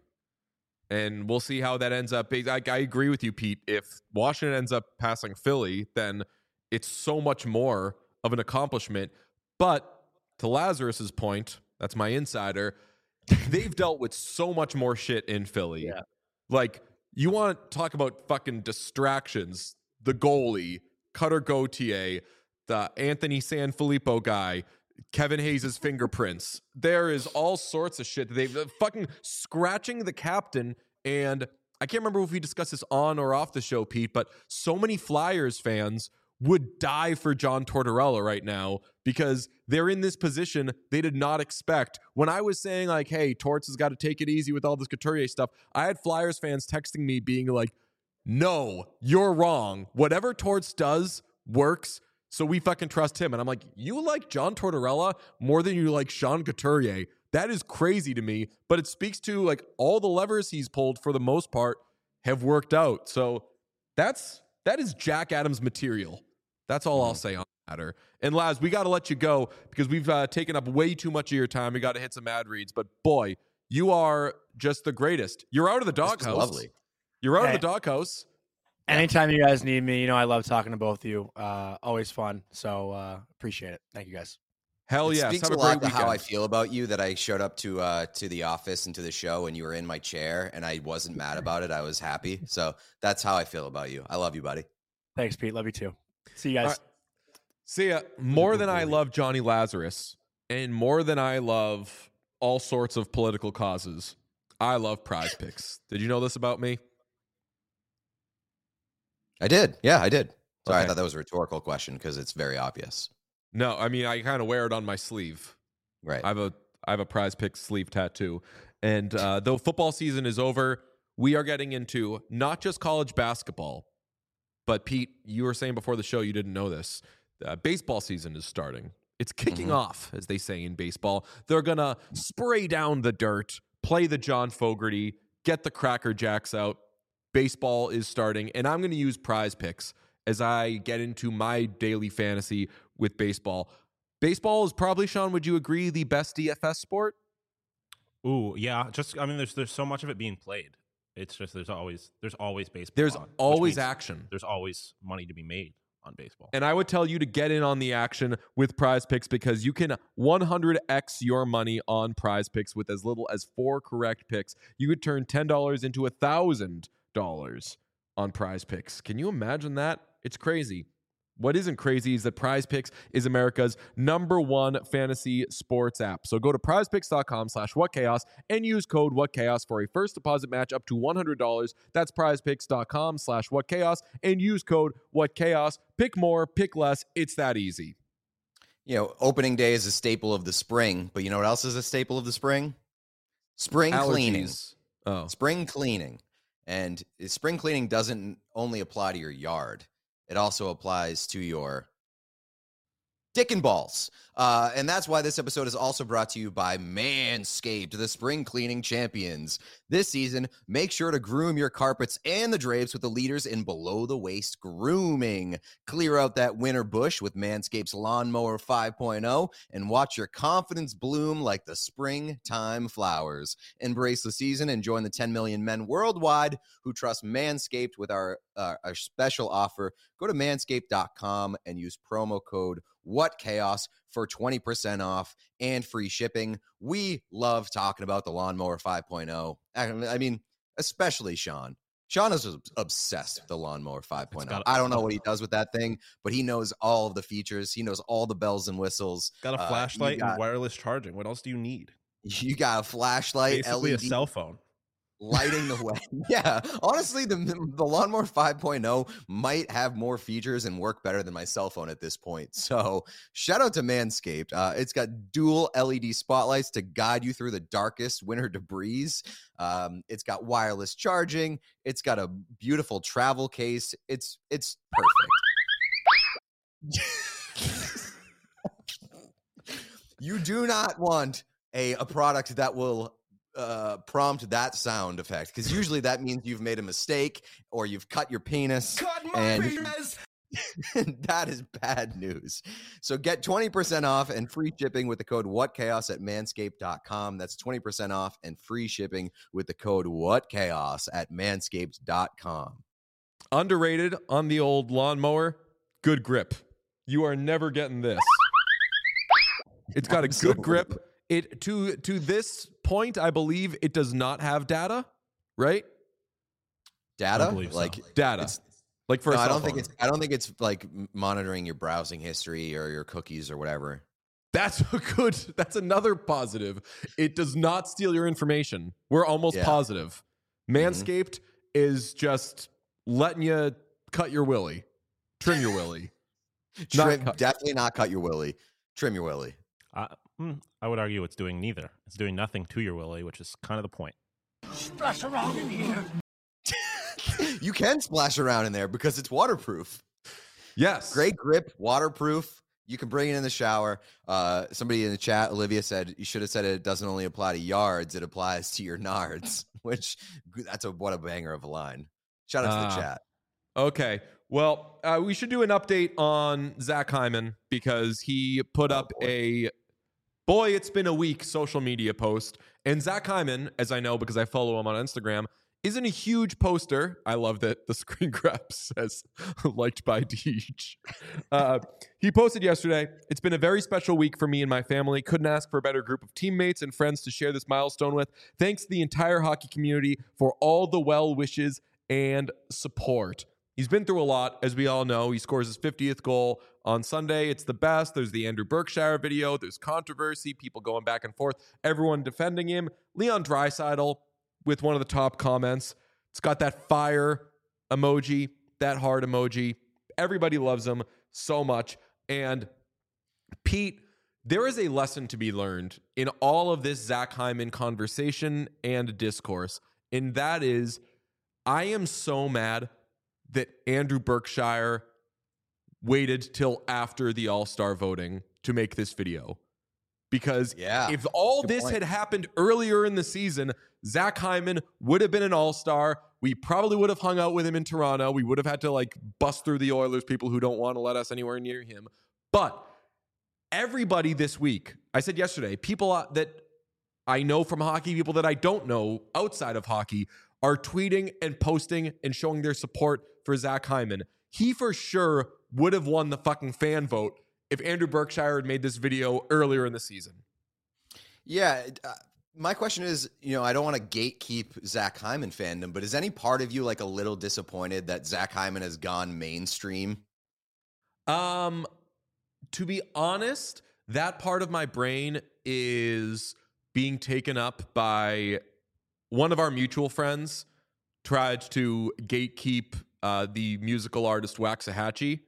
And we'll see how that ends up. I, I agree with you, Pete. If Washington ends up passing Philly, then it's so much more of an accomplishment. But to Lazarus's point, that's my insider, they've dealt with so much more shit in Philly. Yeah. Like, you want to talk about fucking distractions, the goalie, Cutter Gauthier, the Anthony Sanfilippo guy, Kevin Hayes' fingerprints. There is all sorts of shit. They've fucking scratching the captain. And I can't remember if we discussed this on or off the show, Pete, but so many Flyers fans would die for John Tortorella right now because they're in this position they did not expect. When I was saying like, hey, Torts has got to take it easy with all this Couturier stuff, I had Flyers fans texting me being like, no, you're wrong. Whatever Torts does works. So we fucking trust him. And I'm like, you like John Tortorella more than you like Sean Couturier. That is crazy to me, but it speaks to like all the levers he's pulled for the most part have worked out. So that's that is Jack Adams material. That's all I'll say on the matter. And Laz, we got to let you go because we've uh, taken up way too much of your time. We got to hit some ad reads, but boy, you are just the greatest. You're out of the doghouse. Lovely. You're out Hey. of the doghouse. Anytime you guys need me, you know I love talking to both of you. Uh, always fun. So uh, appreciate it. Thank you guys. Hell It yes. speaks Have a a lot great to weekend. how I feel about you that I showed up to uh, to the office and to the show and you were in my chair and I wasn't mad about it. I was happy. So that's how I feel about you. I love you, buddy. Thanks, Pete. Love you too. See you guys. All right. See ya. More than I love Johnny Lazarus and more than I love all sorts of political causes, I love Prize Picks. Did you know this about me? I did. Yeah, I did. Sorry, Okay. I thought that was a rhetorical question because it's very obvious. No, I mean I kind of wear it on my sleeve. Right. I have a I have a Prize Picks sleeve tattoo. And uh, though football season is over, we are getting into not just college basketball, but Pete, you were saying before the show you didn't know this. Uh, baseball season is starting. It's kicking Mhm. off, as they say in baseball. They're going to spray down the dirt, play the John Fogerty, get the Cracker Jacks out. Baseball is starting, and I'm going to use Prize Picks as I get into my daily fantasy with baseball. Baseball is probably, Sean, would you agree, the best D F S sport? Ooh, yeah. Just I mean, there's there's so much of it being played. It's just there's always there's always baseball. There's on, which always means action. There's always money to be made on baseball. And I would tell you to get in on the action with Prize Picks because you can one hundred x your money on Prize Picks with as little as four correct picks. You could turn ten dollars into one thousand dollars on Prize Picks. Can you imagine that? It's crazy. What isn't crazy is that Prize Picks is America's number one fantasy sports app. So go to prizepicks.com slash whatchaos and use code whatchaos for a first deposit match up to one hundred dollars. That's prizepicks.com slash whatchaos and use code whatchaos. Pick more, pick less. It's that easy. You know, opening day is a staple of the spring, but you know what else is a staple of the spring? Spring cleaning. Allergies. Oh. Spring cleaning. And spring cleaning doesn't only apply to your yard. It also applies to your dick and balls. Uh, and that's why this episode is also brought to you by Manscaped, the spring cleaning champions. This season, make sure to groom your carpets and the drapes with the leaders in below-the-waist grooming. Clear out that winter bush with Manscaped's Lawnmower five point oh and watch your confidence bloom like the springtime flowers. Embrace the season and join the ten million men worldwide who trust Manscaped with our, uh, our special offer. Go to manscaped dot com and use promo code WhatChaos for twenty percent off and free shipping. We love talking about the Lawnmower five point oh. I mean, especially Sean. Sean is obsessed with the Lawnmower five point oh. got- I don't know what he does with that thing, but he knows all of the features. He knows all the bells and whistles. Got a Uh, flashlight you got, and wireless charging. What else do you need? You got a flashlight, Basically L E D a cell phone. lighting the way. Yeah, honestly, the the Lawnmower five point oh might have more features and work better than my cell phone at this point. So shout out to Manscaped. Uh, it's got dual L E D spotlights to guide you through the darkest winter debris. Um, it's got wireless charging. It's got a beautiful travel case. It's it's perfect. You do not want a, a product that will uh prompt that sound effect, because usually that means you've made a mistake or you've cut your penis. Cut my and penis. that is bad news. So get twenty percent off and free shipping with the code WhatChaos at manscaped dot com. That's twenty percent off and free shipping with the code WhatChaos at manscaped dot com. Underrated on the old lawnmower, good grip. You are never getting this. It's got a good Absolutely. grip. It to to this point, I believe it does not have data, right? Data, believe so. like Data, it's, like for no, a I cell don't think phone. it's. I don't think it's like m- monitoring your browsing history or your cookies or whatever. That's a good. That's another positive. It does not steal your information. We're almost Yeah. positive. Manscaped is just letting you cut your willy, trim your willy. Not Trim, cut. definitely not cut your willy. Trim your willy. Uh, mm, I would argue it's doing neither. It's doing nothing to your willy, which is kind of the point. Splash around in here. You can splash around in there because it's waterproof. Yes, Great grip, waterproof. You can bring it in the shower. Uh, somebody in the chat, Olivia said, you should have said it doesn't only apply to yards, it applies to your nards, which that's a what a banger of a line. Shout out to Uh, the chat. Okay. Well, uh, we should do an update on Zach Hyman because he put Oh, up boy. a boy, it's been a week social media post. And Zach Hyman, as I know because I follow him on Instagram, isn't a huge poster. I love that the screen grab says liked by Deej. Uh, he posted yesterday, it's been a very special week for me and my family. Couldn't ask for a better group of teammates and friends to share this milestone with. Thanks to the entire hockey community for all the well wishes and support. He's been through a lot, as we all know. He scores his fiftieth goal on Sunday. It's the best. There's the Andrew Berkshire video. There's controversy, people going back and forth, everyone defending him. Leon Draisaitl with one of the top comments. It's got that fire emoji, that heart emoji. Everybody loves him so much. And Pete, there is a lesson to be learned in all of this Zach Hyman conversation and discourse. And that is, I am so mad that Andrew Berkshire waited till after the All-Star voting to make this video. Because Yeah, if all good this point. had happened earlier in the season, Zach Hyman would have been an all-star. We probably would have hung out with him in Toronto. We would have had to like bust through the Oilers, people who don't want to let us anywhere near him. But everybody this week, I said yesterday, people that I know from hockey, people that I don't know outside of hockey, are tweeting and posting and showing their support for Zach Hyman. He for sure would have won the fucking fan vote if Andrew Berkshire had made this video earlier in the season. Yeah. Uh, my question is, you know, I don't want to gatekeep Zach Hyman fandom, but is any part of you like a little disappointed that Zach Hyman has gone mainstream? Um, to be honest, that part of my brain is being taken up by one of our mutual friends tried to gatekeep uh, the musical artist Waxahachie,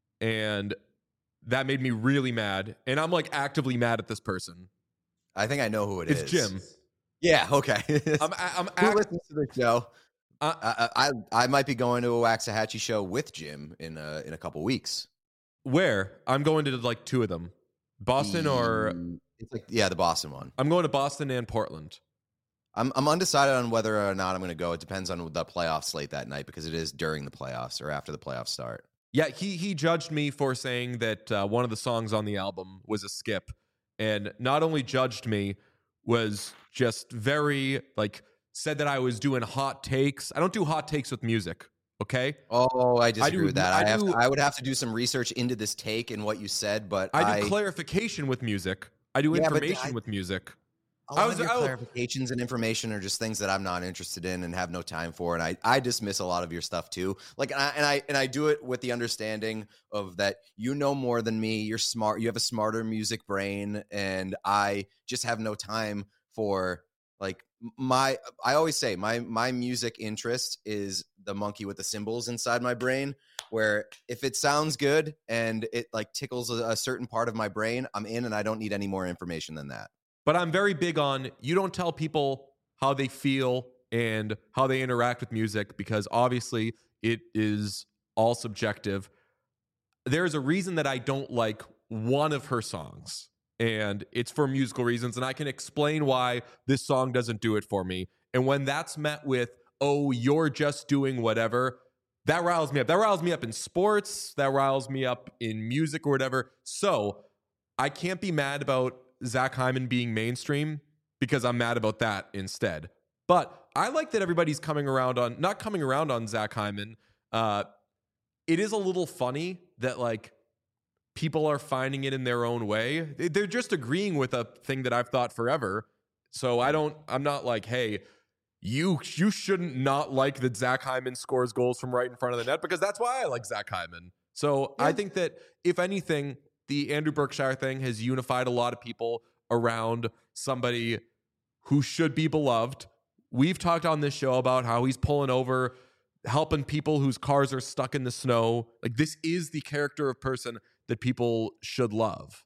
and that made me really mad. And I'm like actively mad at this person. I think I know who it is. It's Jim. Yeah. Okay. I'm, I'm Who act- listens to the show? Uh, I, I I might be going to a Waxahachie show with Jim in a in a couple weeks. where? I'm going to like two of them. Boston or The- it's like yeah, the Boston one. I'm going to Boston and Portland. I'm I'm undecided on whether or not I'm going to go. It depends on the playoff slate that night because it is during the playoffs or after the playoffs start. Yeah, he he judged me for saying that uh, one of the songs on the album was a skip, and not only judged me, was just very like said that I was doing hot takes. I don't do hot takes with music. Okay, Oh, I disagree do- with that. I I, have do- to, I would have to do some research into this take and what you said, but I do I, clarification with music. I do Yeah, but information I- with music. a lot I was- of your I was- clarifications and information are just things that I'm not interested in and have no time for, and I, I dismiss a lot of your stuff too. Like, and I, and I and I do it with the understanding of that you know more than me. You're smart. You have a smarter music brain, and I just have no time for like my. I always say my my music interest is the monkey with the cymbals inside my brain. Where if it sounds good and it like tickles a, a certain part of my brain, I'm in, and I don't need any more information than that. But I'm very big on you don't tell people how they feel and how they interact with music because obviously it is all subjective. There's a reason that I don't like one of her songs, and it's for musical reasons, and I can explain why this song doesn't do it for me. And when that's met with, oh, you're just doing whatever, that riles me up. That riles me up in sports, that riles me up in music or whatever. So I can't be mad about Zach Hyman being mainstream because I'm mad about that instead. But I like that everybody's coming around on, not coming around on Zach Hyman. Uh, it is a little funny that like people are finding it in their own way. They- They're just agreeing with a thing that I've thought forever. So I don't, I'm not like, hey, you you shouldn't not like that Zach Hyman scores goals from right in front of the net because that's why I like Zach Hyman. So I think that if anything, the Andrew Berkshire thing has unified a lot of people around somebody who should be beloved. We've talked on this show about how he's pulling over, helping people whose cars are stuck in the snow. Like this is the character of person that people should love.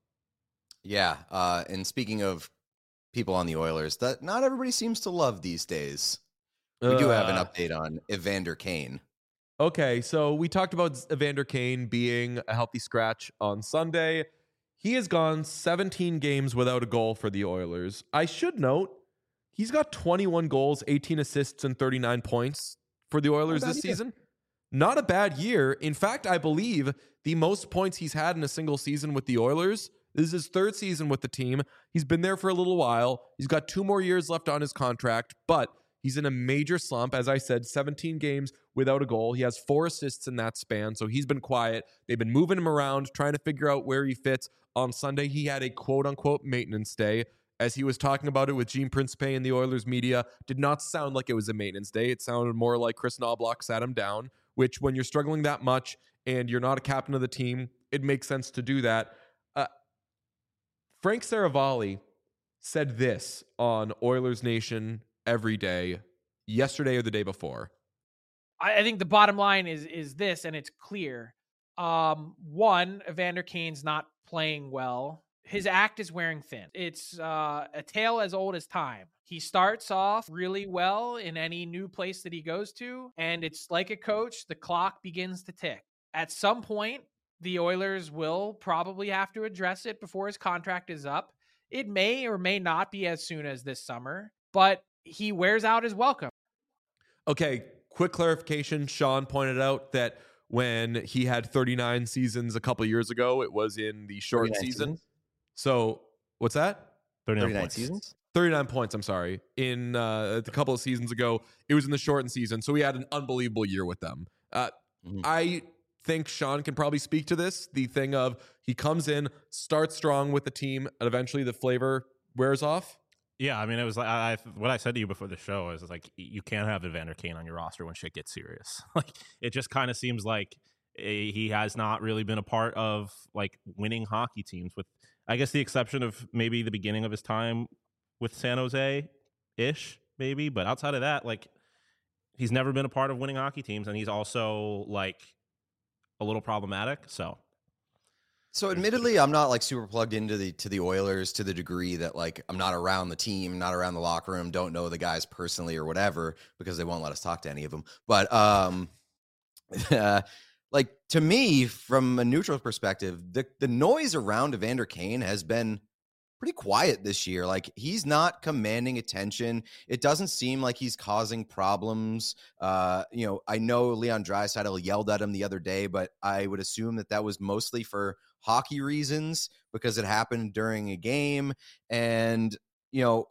Yeah, uh, and speaking of people on the Oilers, that not everybody seems to love these days. We do have an Uh, update on Evander Kane. Okay, so we talked about Evander Kane being a healthy scratch on Sunday. He has gone seventeen games without a goal for the Oilers. I should note, he's got twenty-one goals, eighteen assists, and thirty-nine points for the Oilers this year. season. Not a bad year. In fact, I believe the most points he's had in a single season with the Oilers. This is his third season with the team. He's been there for a little while. He's got two more years left on his contract, but he's in a major slump. As I said, seventeen games without a goal. He has four assists in that span, so he's been quiet. They've been moving him around, trying to figure out where he fits. On Sunday, he had a quote-unquote maintenance day. As he was talking about it with Gene Principe and the Oilers media, did not sound like it was a maintenance day. It sounded more like Chris Knobloch sat him down, which when you're struggling that much and you're not a captain of the team, it makes sense to do that. Uh, Frank Saravalli said this on Oilers Nation every day, yesterday or the day before. I, I think the bottom line is is this, and it's clear. Um, one, Evander Kane's not playing well. His act is wearing thin. It's uh, a tale as old as time. He starts off really well in any new place that he goes to, and it's like a coach, the clock begins to tick. At some point, the Oilers will probably have to address it before his contract is up. It may or may not be as soon as this summer, but he wears out his welcome. Okay, quick clarification. Sean pointed out that when he had thirty-nine seasons a couple years ago, it was in the short season. Seasons? So what's that? thirty-nine, thirty-nine points. seasons? thirty-nine points, I'm sorry. In uh, a couple of seasons ago, it was in the shortened season. So he had an unbelievable year with them. Uh, Mhm. I think Sean can probably speak to this. The thing of he comes in, starts strong with the team, and eventually the flavor wears off. Yeah, I mean, it was like I, I, what I said to you before the show is like you can't have Evander Kane on your roster when shit gets serious. Like it just kind of seems like a, he has not really been a part of like winning hockey teams, with I guess the exception of maybe the beginning of his time with San Jose ish, maybe. But outside of that, like he's never been a part of winning hockey teams, and he's also like a little problematic. So. So admittedly, I'm not like super plugged into the to the Oilers to the degree that like I'm not around the team, not around the locker room, don't know the guys personally or whatever because they won't let us talk to any of them. But um, uh, like to me, from a neutral perspective, the the noise around Evander Kane has been pretty quiet this year. Like he's not commanding attention. It doesn't seem like he's causing problems. Uh, you know, I know Leon Draisaitl yelled at him the other day, but I would assume that that was mostly for hockey reasons because it happened during a game. And, you know,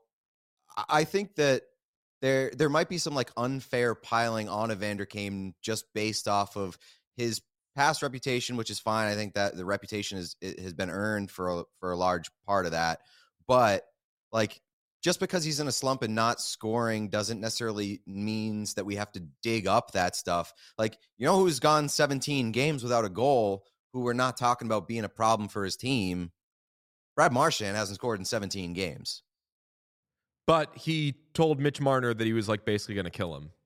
I think that there there might be some like unfair piling on Evander Kane just based off of his past reputation, which is fine. I think that the reputation is it has been earned for a, for a large part of that. But like just because he's in a slump and not scoring doesn't necessarily means that we have to dig up that stuff. Like, you know who's gone seventeen games without a goal, who we're not talking about being a problem for his team? Brad Marchand hasn't scored in seventeen games. But he told Mitch Marner that he was like basically going to kill him.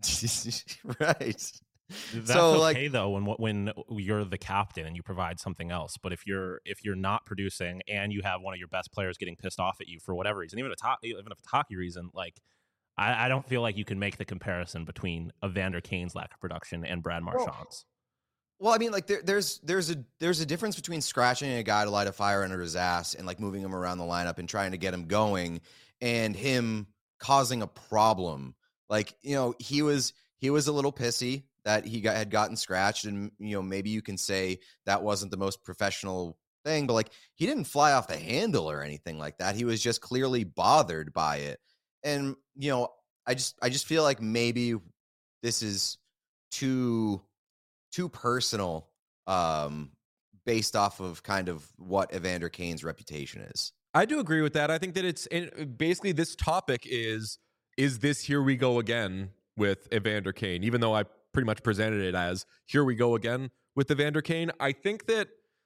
Right. That's So, okay like- though when when you're the captain and you provide something else. But if you're if you're not producing and you have one of your best players getting pissed off at you for whatever reason, even a to- even if it's hockey reason, like I, I don't feel like you can make the comparison between Evander Kane's lack of production and Brad Marchand's. Well, I mean, like there, there's there's a there's a difference between scratching a guy to light a fire under his ass and like moving him around the lineup and trying to get him going, and him causing a problem. Like, you know, he was he was a little pissy that he got, had gotten scratched, and you know maybe you can say that wasn't the most professional thing, but like he didn't fly off the handle or anything like that. He was just clearly bothered by it, and you know I just I just feel like maybe this is too. too personal um, based off of kind of what Evander Kane's reputation is. I do agree with that. I think that it's and basically this topic is, is this here we go again with Evander Kane, even though I pretty much presented it as here we go again with Evander Kane. I think that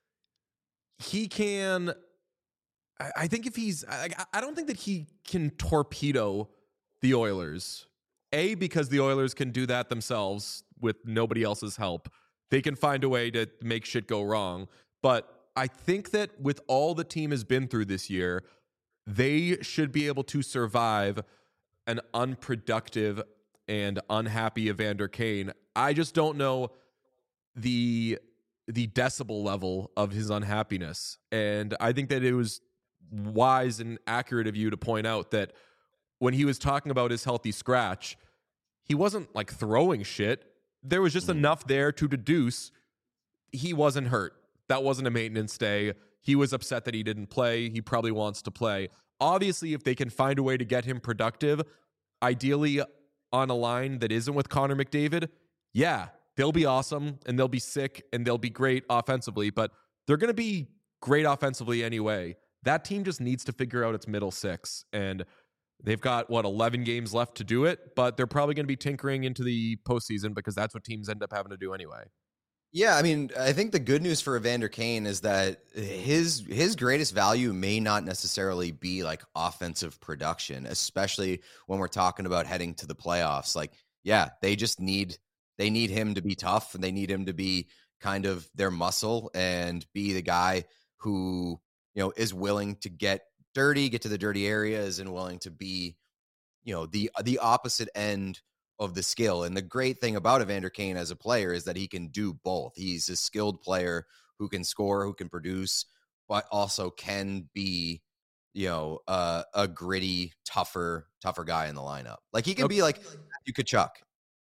he can, I, I think if he's, I, I don't think that he can torpedo the Oilers. A, because the Oilers can do that themselves with nobody else's help. They can find a way to make shit go wrong. But I think that with all the team has been through this year, they should be able to survive an unproductive and unhappy Evander Kane. I just don't know the the decibel level of his unhappiness. And I think that it was wise and accurate of you to point out that when he was talking about his healthy scratch, he wasn't like throwing shit. There was just mm. enough there to deduce he wasn't hurt. That wasn't a maintenance day. He was upset that he didn't play. He probably wants to play. Obviously, if they can find a way to get him productive, ideally on a line that isn't with Connor McDavid, yeah, they'll be awesome and they'll be sick and they'll be great offensively, but they're going to be great offensively anyway. That team just needs to figure out its middle six, and they've got, what, eleven games left to do it, but they're probably going to be tinkering into the postseason because that's what teams end up having to do anyway. Yeah, I mean, I think the good news for Evander Kane is that his his greatest value may not necessarily be like offensive production, especially when we're talking about heading to the playoffs. Like, yeah, they just need they need him to be tough, and they need him to be kind of their muscle and be the guy who, you know, is willing to get dirty, get to the dirty areas, and willing to be, you know, the the opposite end of the skill. And the great thing about Evander Kane as a player is that he can do both. He's a skilled player who can score, who can produce, but also can be, you know, uh, a gritty, tougher, tougher guy in the lineup. Like he can okay. be like you could Chuck.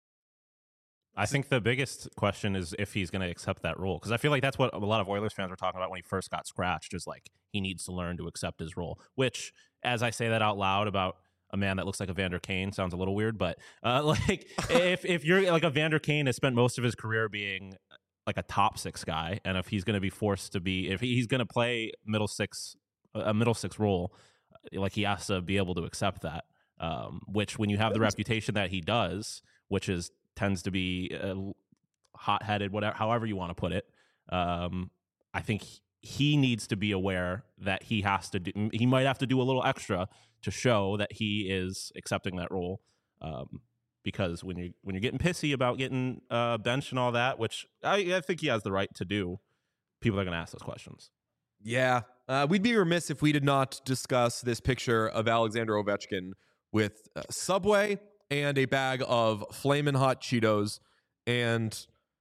I think the biggest question is if he's going to accept that role, because I feel like that's what a lot of Oilers fans were talking about when he first got scratched, is like he needs to learn to accept his role, which, as I say that out loud about a man that looks like Evander Kane, sounds a little weird, but uh, like if if you're like Evander Kane has spent most of his career being like a top six guy, and if he's going to be forced to be, if he's going to play middle six, a middle six role, like he has to be able to accept that. Um, which when you have the reputation that he does, which is tends to be uh, hot-headed, whatever, however you want to put it, um, I think he needs to be aware that he has to do, he might have to do a little extra to show that he is accepting that role. Um, because when you when you're getting pissy about getting uh, benched and all that, which I, I think he has the right to do, people are going to ask those questions. Yeah, uh, we'd be remiss if we did not discuss this picture of Alexander Ovechkin with uh, Subway and a bag of Flamin' Hot Cheetos. And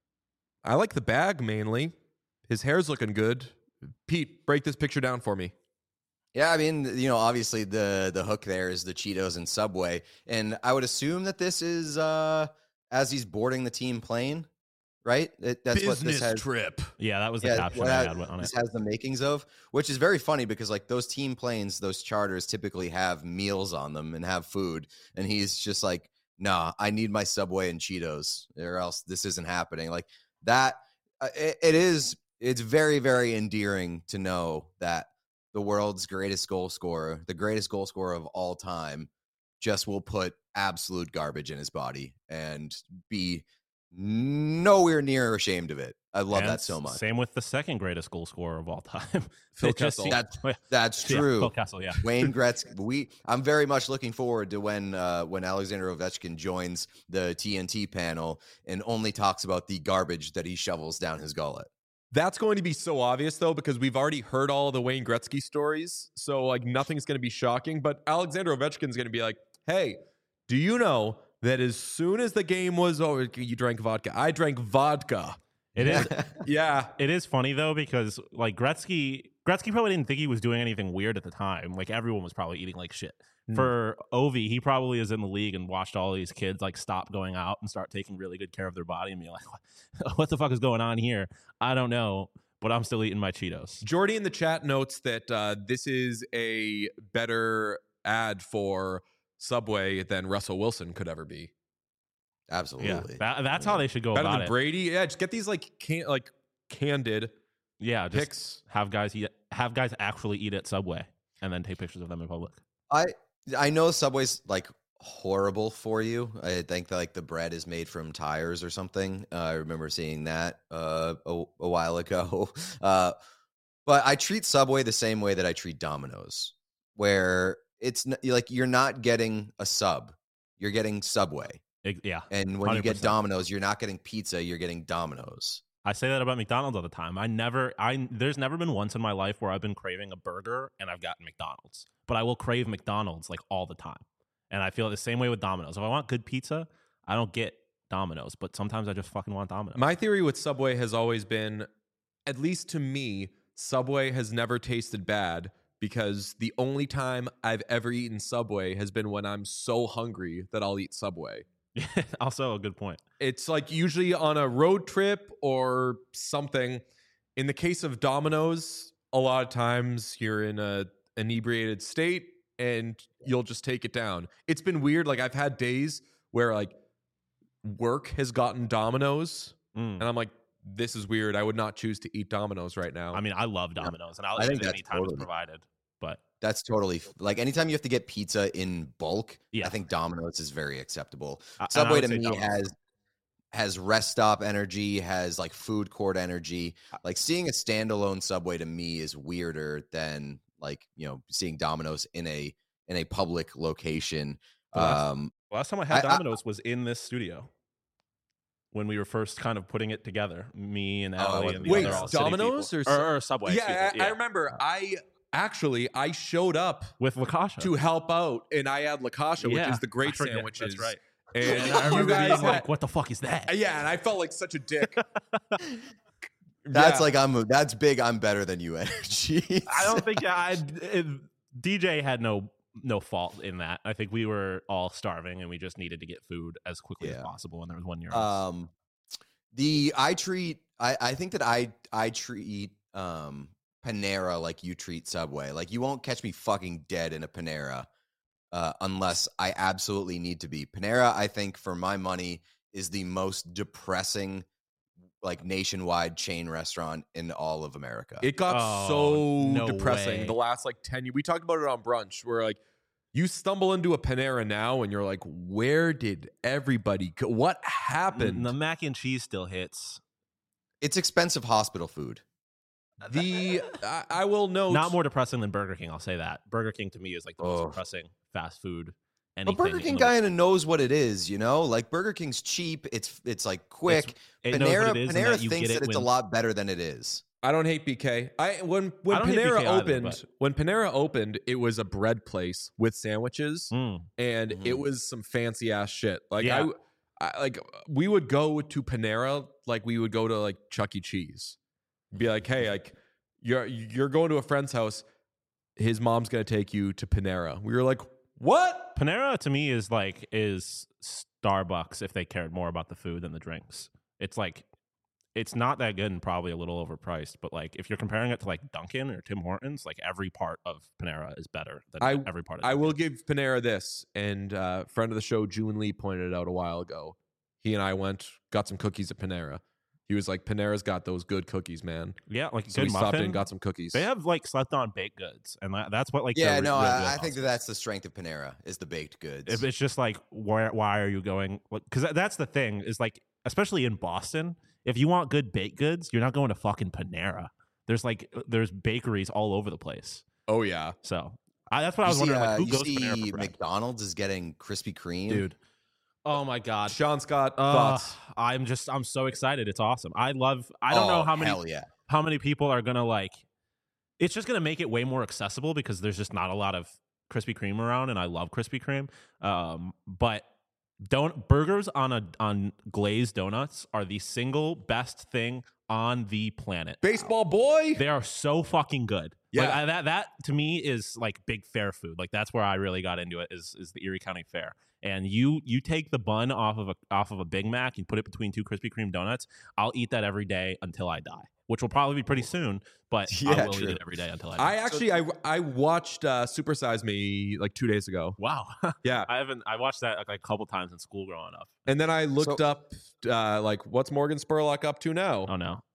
I like the bag mainly. His hair's looking good. Pete, break this picture down for me. Yeah, I mean, you know, obviously the the hook there is the Cheetos and Subway. And I would assume that this is uh, as he's boarding the team plane, right? It, that's Business what this has. trip. Yeah, that was the yeah, caption I has, had on it. This has the makings of, which is very funny because like those team planes, those charters typically have meals on them and have food. And he's just like, nah, I need my Subway and Cheetos or else this isn't happening. Like that, uh, it, it is, it's very, very endearing to know that the world's greatest goal scorer, the greatest goal scorer of all time, just will put absolute garbage in his body and be nowhere near ashamed of it. I love and that so much. Same with the second greatest goal scorer of all time, Phil Kessel. That's, that's true. Yeah, Phil Kessel, yeah. Wayne Gretzky. We. I'm very much looking forward to when uh, when Alexander Ovechkin joins the T N T panel and only talks about the garbage that he shovels down his gullet. That's going to be so obvious, though, because we've already heard all the Wayne Gretzky stories. So, like, nothing's going to be shocking. But Alexander Ovechkin's going to be like, hey, do you know that as soon as the game was over, you drank vodka? I drank vodka. It is. Yeah. It is funny, though, because, like, Gretzky, Gretzky probably didn't think he was doing anything weird at the time. Like, everyone was probably eating like shit. Mm. For Ovi, he probably is in the league and watched all these kids, like, stop going out and start taking really good care of their body and be like, what the fuck is going on here? I don't know, but I'm still eating my Cheetos. Jordy in the chat notes that uh, this is a better ad for Subway than Russell Wilson could ever be. Absolutely. Yeah, that, that's yeah. how they should go better about than it. Brady. Yeah, just get these like can like candid. Yeah, just pics. have guys eat, have guys actually eat at Subway and then take pictures of them in public. I I know Subway's like horrible for you. I think that, like the bread is made from tires or something. Uh, I remember seeing that uh, a, a while ago. Uh, but I treat Subway the same way that I treat Domino's, where it's n- like you're not getting a sub, you're getting Subway. It, yeah. And when one hundred percent. You get Domino's, you're not getting pizza, you're getting Domino's. I say that about McDonald's all the time. I never, I there's never been once in my life where I've been craving a burger and I've gotten McDonald's. But I will crave McDonald's like all the time. And I feel the same way with Domino's. If I want good pizza, I don't get Domino's. But sometimes I just fucking want Domino's. My theory with Subway has always been at least to me, Subway has never tasted bad because the only time I've ever eaten Subway has been when I'm so hungry that I'll eat Subway. Also a good point. It's like usually on a road trip or something. In the case of Domino's, a lot of times you're in a inebriated state and you'll just take it down. It's been weird. Like I've had days where like work has gotten Domino's Mm. and I'm like, this is weird. I would not choose to eat Domino's right now. I mean, I love Domino's, and I'll I eat think it that's anytime totally- it's provided. But That's totally like anytime you have to get pizza in bulk. Yeah. I think Domino's is very acceptable. I- and I Subway would to say me Domino's. has has rest stop energy, has like food court energy. Like seeing a standalone Subway to me is weirder than like, you know, seeing Domino's in a in a public location. The last- Um, last time I had I- I- Domino's was in this studio when we were first kind of putting it together. Me and Oh, Allie it and the Wait, other all city Domino's people. or or, Sub- or Subway? yeah, excuse me. I, I remember. I actually I showed up with Lakasha to help out, and I had Lakasha, which Yeah, is the I great forget. sandwiches. That's right. And And I you remember guys being had- like, "What the fuck is that?" yeah, and I felt like such a dick. that's Yeah. like I'm that's big. I'm better than you energy. I don't think I. It, D J had no no fault in that. I think we were all starving and we just needed to get food as quickly as Yeah. possible. And there was one near us. Um, the I treat I I think that I I treat um Panera like you treat Subway. Like you won't catch me fucking dead in a Panera uh, unless I absolutely need to be. Panera, I think, for my money, is the most depressing like nationwide chain restaurant in all of America. It got Oh, so no depressing way. the last like ten years. We talked about it on brunch where like you stumble into a Panera now and you're like, where did everybody go? What happened? the mac and cheese still hits. It's expensive hospital food. The I, I will note Not more depressing than Burger King. I'll say that. Burger King to me is like the most Oh. depressing fast food. But Anything Burger in King the world. kind of knows what it is, you know. Like Burger King's cheap. It's it's like quick. It knows Panera what it is and Panera that you thinks get that it it's a when- lot better than it is. I don't hate B K. I when when I don't hate Panera B K either, opened, but- when Panera opened, it was a bread place with sandwiches, Mm. and Mhm. it was some fancy ass shit. Like Yeah. I, I, like we would go to Panera like we would go to like Chuck E. Cheese. Be like, hey, like you're you're going to a friend's house. His mom's gonna take you to Panera. We were like, what? Panera to me is like is Starbucks if they cared more about the food than the drinks. It's like it's not that good and probably a little overpriced, but like if you're comparing it to like Dunkin' or Tim Hortons, like every part of Panera is better than I- every part of I Dunkin'. will give Panera this, and uh, friend of the show, June Lee, pointed it out a while ago. He and I went, got some cookies at Panera. He was like, Panera's got those good cookies, man. Yeah, like So good we stopped in muffin. and got some cookies. They have like slept on baked goods, and that, that's what like Yeah, they're no, real I, good I think that on. that's the strength of Panera is the baked goods. If it's just like why why are you going? Because that's the thing is like especially in Boston, if you want good baked goods, you're not going to fucking Panera. There's like there's bakeries all over the place. Oh, yeah. So I, that's what I you was see, wondering. uh, Like, who you goes to see Panera for bread? McDonald's is getting Krispy Kreme, Dude? Oh my god. Sean Scott, Uh, thoughts? I'm just I'm so excited. It's awesome. I love. I don't Oh, know how many Hell yeah. how many people are gonna like. It's just gonna make it way more accessible because there's just not a lot of Krispy Kreme around, and I love Krispy Kreme. Um, but don't burgers on a on glazed donuts are the single best thing on the planet. Baseball boy? They are so fucking good. Yeah. Like, I, that that to me is like big fair food. Like that's where I really got into it. Is is the Erie County Fair. And you you take the bun off of a off of a Big Mac, you put it between two Krispy Kreme donuts. I'll eat that every day until I die, which will probably be pretty soon. But I Yeah, will eat true. it every day until I die. I actually, I, I watched uh, Super Size Me like two days ago. wow. Yeah. I haven't. I watched that like a couple times in school growing up. And then I looked So- up, uh, like, what's Morgan Spurlock up to now? Oh no,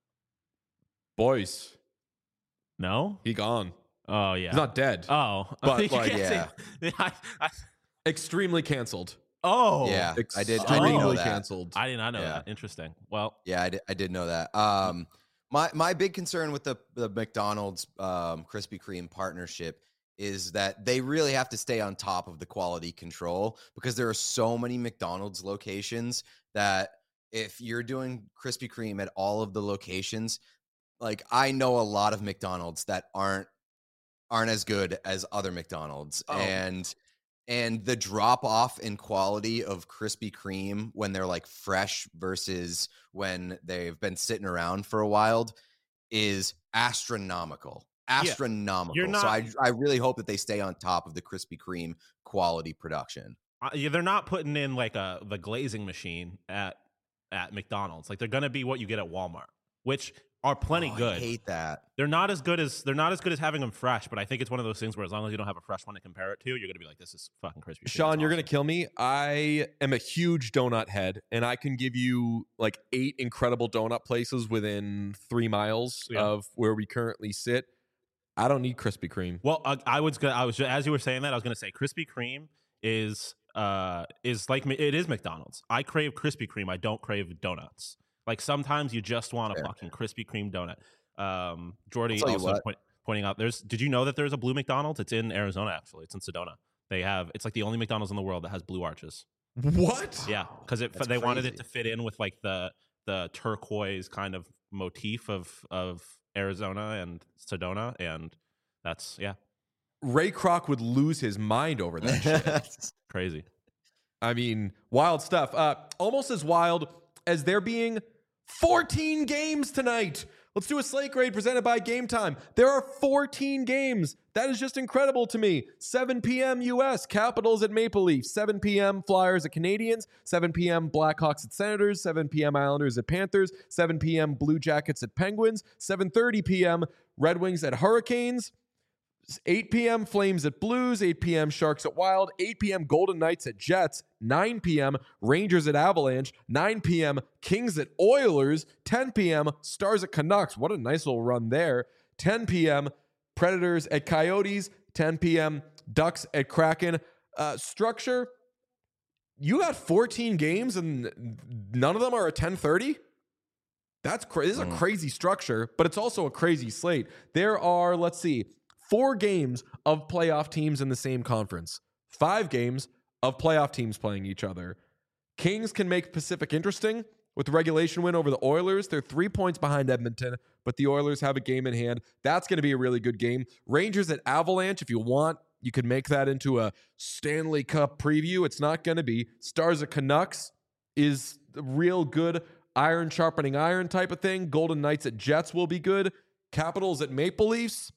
Boys, no. he gone. Oh yeah. He's not dead. Oh, But, You like, can't say- I, I, Extremely canceled. oh Yeah, I did. I Extremely did know that. canceled. I did not know Yeah. that. Interesting. Well, Yeah, I did, I did know that. Um, my my big concern with the the McDonald's um, Krispy Kreme partnership is that they really have to stay on top of the quality control because there are so many McDonald's locations that if you're doing Krispy Kreme at all of the locations, like I know a lot of McDonald's that aren't aren't as good as other McDonald's, Oh. and and the drop off in quality of Krispy Kreme when they're like fresh versus when they've been sitting around for a while is astronomical. Astronomical. you're not- so I I really hope that they stay on top of the Krispy Kreme quality production. Uh, yeah, they're not putting in like a the glazing machine at at McDonald's. Like they're gonna be what you get at Walmart, which are plenty Oh, good. I hate that. They're not as good as they're not as good as having them fresh, but I think it's one of those things where as long as you don't have a fresh one to compare it to, you're gonna be like, this is fucking crispy. Sean, you're gonna kill me. I am a huge donut head, and I can give you like eight incredible donut places within three miles Yeah. of where we currently sit. I don't need Krispy Kreme. Well, uh, I was gonna, I was as you were saying that I was gonna say Krispy Kreme is uh is like it is McDonald's. I crave Krispy Kreme. I don't crave donuts. Like sometimes you just want a Fair. fucking Krispy Kreme donut. Um, Jordy I'll tell you also what. point, pointing out there's. Did you know that there's a blue McDonald's? It's in Arizona actually. It's in Sedona. They have. It's like the only McDonald's in the world that has blue arches. What? Yeah, because it That's they wanted it crazy. to fit in with like the the turquoise kind of motif of of Arizona and Sedona, and that's yeah, Ray Kroc would lose his mind over that shit. crazy. I mean, wild stuff. Uh, almost as wild as there being fourteen games tonight. Let's do a slate grade presented by Game Time. There are fourteen games. That is just incredible to me. seven p.m. U S, Capitals at Maple Leafs. seven p.m. Flyers at Canadians. seven p.m. Blackhawks at Senators. seven p.m. Islanders at Panthers. seven p.m. Blue Jackets at Penguins. seven thirty p.m. Red Wings at Hurricanes. eight p.m. Flames at Blues, eight p.m. Sharks at Wild, eight p.m. Golden Knights at Jets, nine p.m. Rangers at Avalanche, nine p.m. Kings at Oilers, ten p.m. Stars at Canucks. What a nice little run there. ten p.m. Predators at Coyotes, ten p.m. Ducks at Kraken. Uh, structure, you got fourteen games and none of them are at ten thirty? That's crazy. This is a Mm. crazy structure, but it's also a crazy slate. There are, let's see, four games of playoff teams in the same conference, five games of playoff teams playing each other. Kings can make Pacific interesting with the regulation win over the Oilers. They're three points behind Edmonton, but the Oilers have a game in hand. That's going to be a really good game. Rangers at Avalanche, if you want, you could make that into a Stanley Cup preview. It's not going to be. Stars at Canucks is a real good iron sharpening iron type of thing. Golden Knights at Jets will be good. Capitals at Maple Leafs.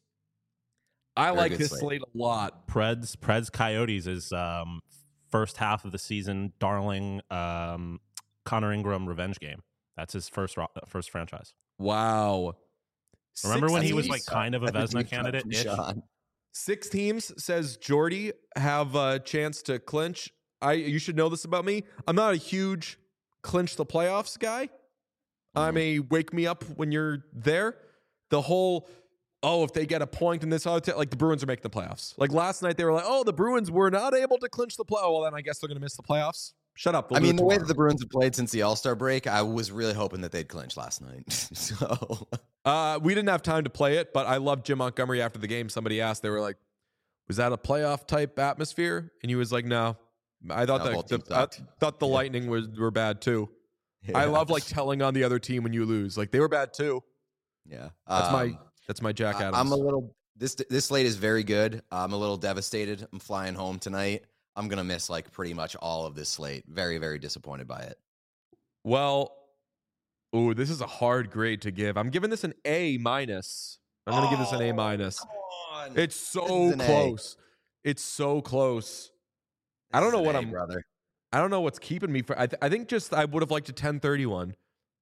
I Very like good this slate. slate a lot. Preds Preds Coyotes is um, first half of the season darling um, Connor Ingram revenge game. That's his first ro- first franchise. Wow. Remember Six when he was teams- like kind of a That's Vesna deep cut candidate? from Sean. Six teams, says Jordy, have a chance to clinch. I you should know this about me. I'm not a huge clinch the playoffs guy. I'm a wake me up when you're there. The whole oh, if they get a point in this other t- like the Bruins are making the playoffs. Like last night they were like, oh, the Bruins were not able to clinch the play. Oh, well then I guess they're gonna miss the playoffs. Shut up. They'll I do mean, it the way that tomorrow. the Bruins have played since the All Star break, I was really hoping that they'd clinch last night. so Uh, we didn't have time to play it, but I loved Jim Montgomery after the game. Somebody asked, they were like, was that a playoff type atmosphere? And he was like, no. I thought No, that both the, teams I sucked. thought the Yeah. Lightning was were bad too. I Yeah. love like telling on the other team when you lose. Like they were bad too. yeah. That's my Um, that's my Jack I- Adams. I'm a little this this slate is very good. I'm a little devastated. I'm flying home tonight. I'm gonna miss like pretty much all of this slate. Very very disappointed by it. well, ooh, this is a hard grade to give. I'm giving this an A minus. I'm gonna give this an A Oh, minus. Come on. It's This so is an A. close. It's so close. I don't This is know an what A, I'm- brother. I don't know what's keeping me for. I, th- I think just I would have liked a ten thirty-one.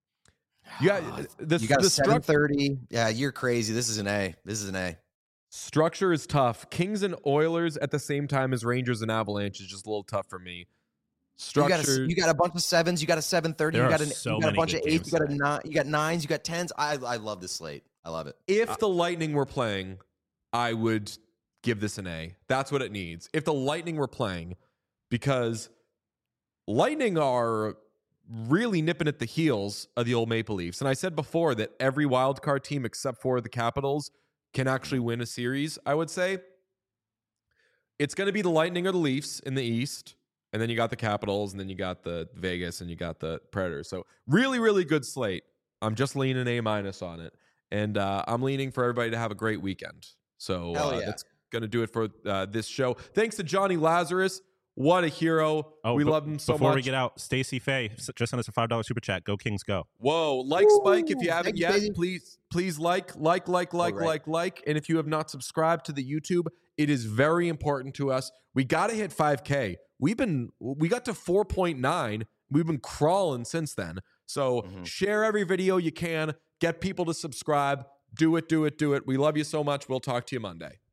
Yeah, the, You got the a seven struc- thirty. Yeah, you're crazy. This is an A. This is an A. structure is tough. Kings and Oilers at the same time as Rangers and Avalanche is just a little tough for me. You Structure. got a, you got a bunch of sevens. You got a seven thirty. There You are got, an, so you got a many bunch good of eights. games You got a tonight. nine. You got nines. You got tens. I I love this slate. I love it. if the Lightning were playing, I would give this an A. That's what it needs. If the Lightning were playing, because Lightning are really nipping at the heels of the old Maple Leafs. And I said before that every wild card team except for the Capitals can actually win a series, I would say. It's going to be the Lightning or the Leafs in the East. And then you got the Capitals, and then you got the Vegas, and you got the Predators. So really, really good slate. I'm just leaning A minus on it. And uh, I'm leaning for everybody to have a great weekend. So Hell uh, yeah. that's going to do it for uh, this show. Thanks to Johnny Lazarus. What a hero. Oh, we but love him so before much. we get out, Stacey Faye s- just sent us a five dollar super chat. Go Kings, go! Whoa, like Spike if you Ooh, haven't thank you, yet. Stacey. Please, please like, like, like, like, right. like, like. And if you have not subscribed to the YouTube, it is very important to us. We got to hit five K. We've been, we got to four point nine. We've been crawling since then. So Mhm. share every video you can. Get people to subscribe. Do it, do it, do it. We love you so much. We'll talk to you Monday.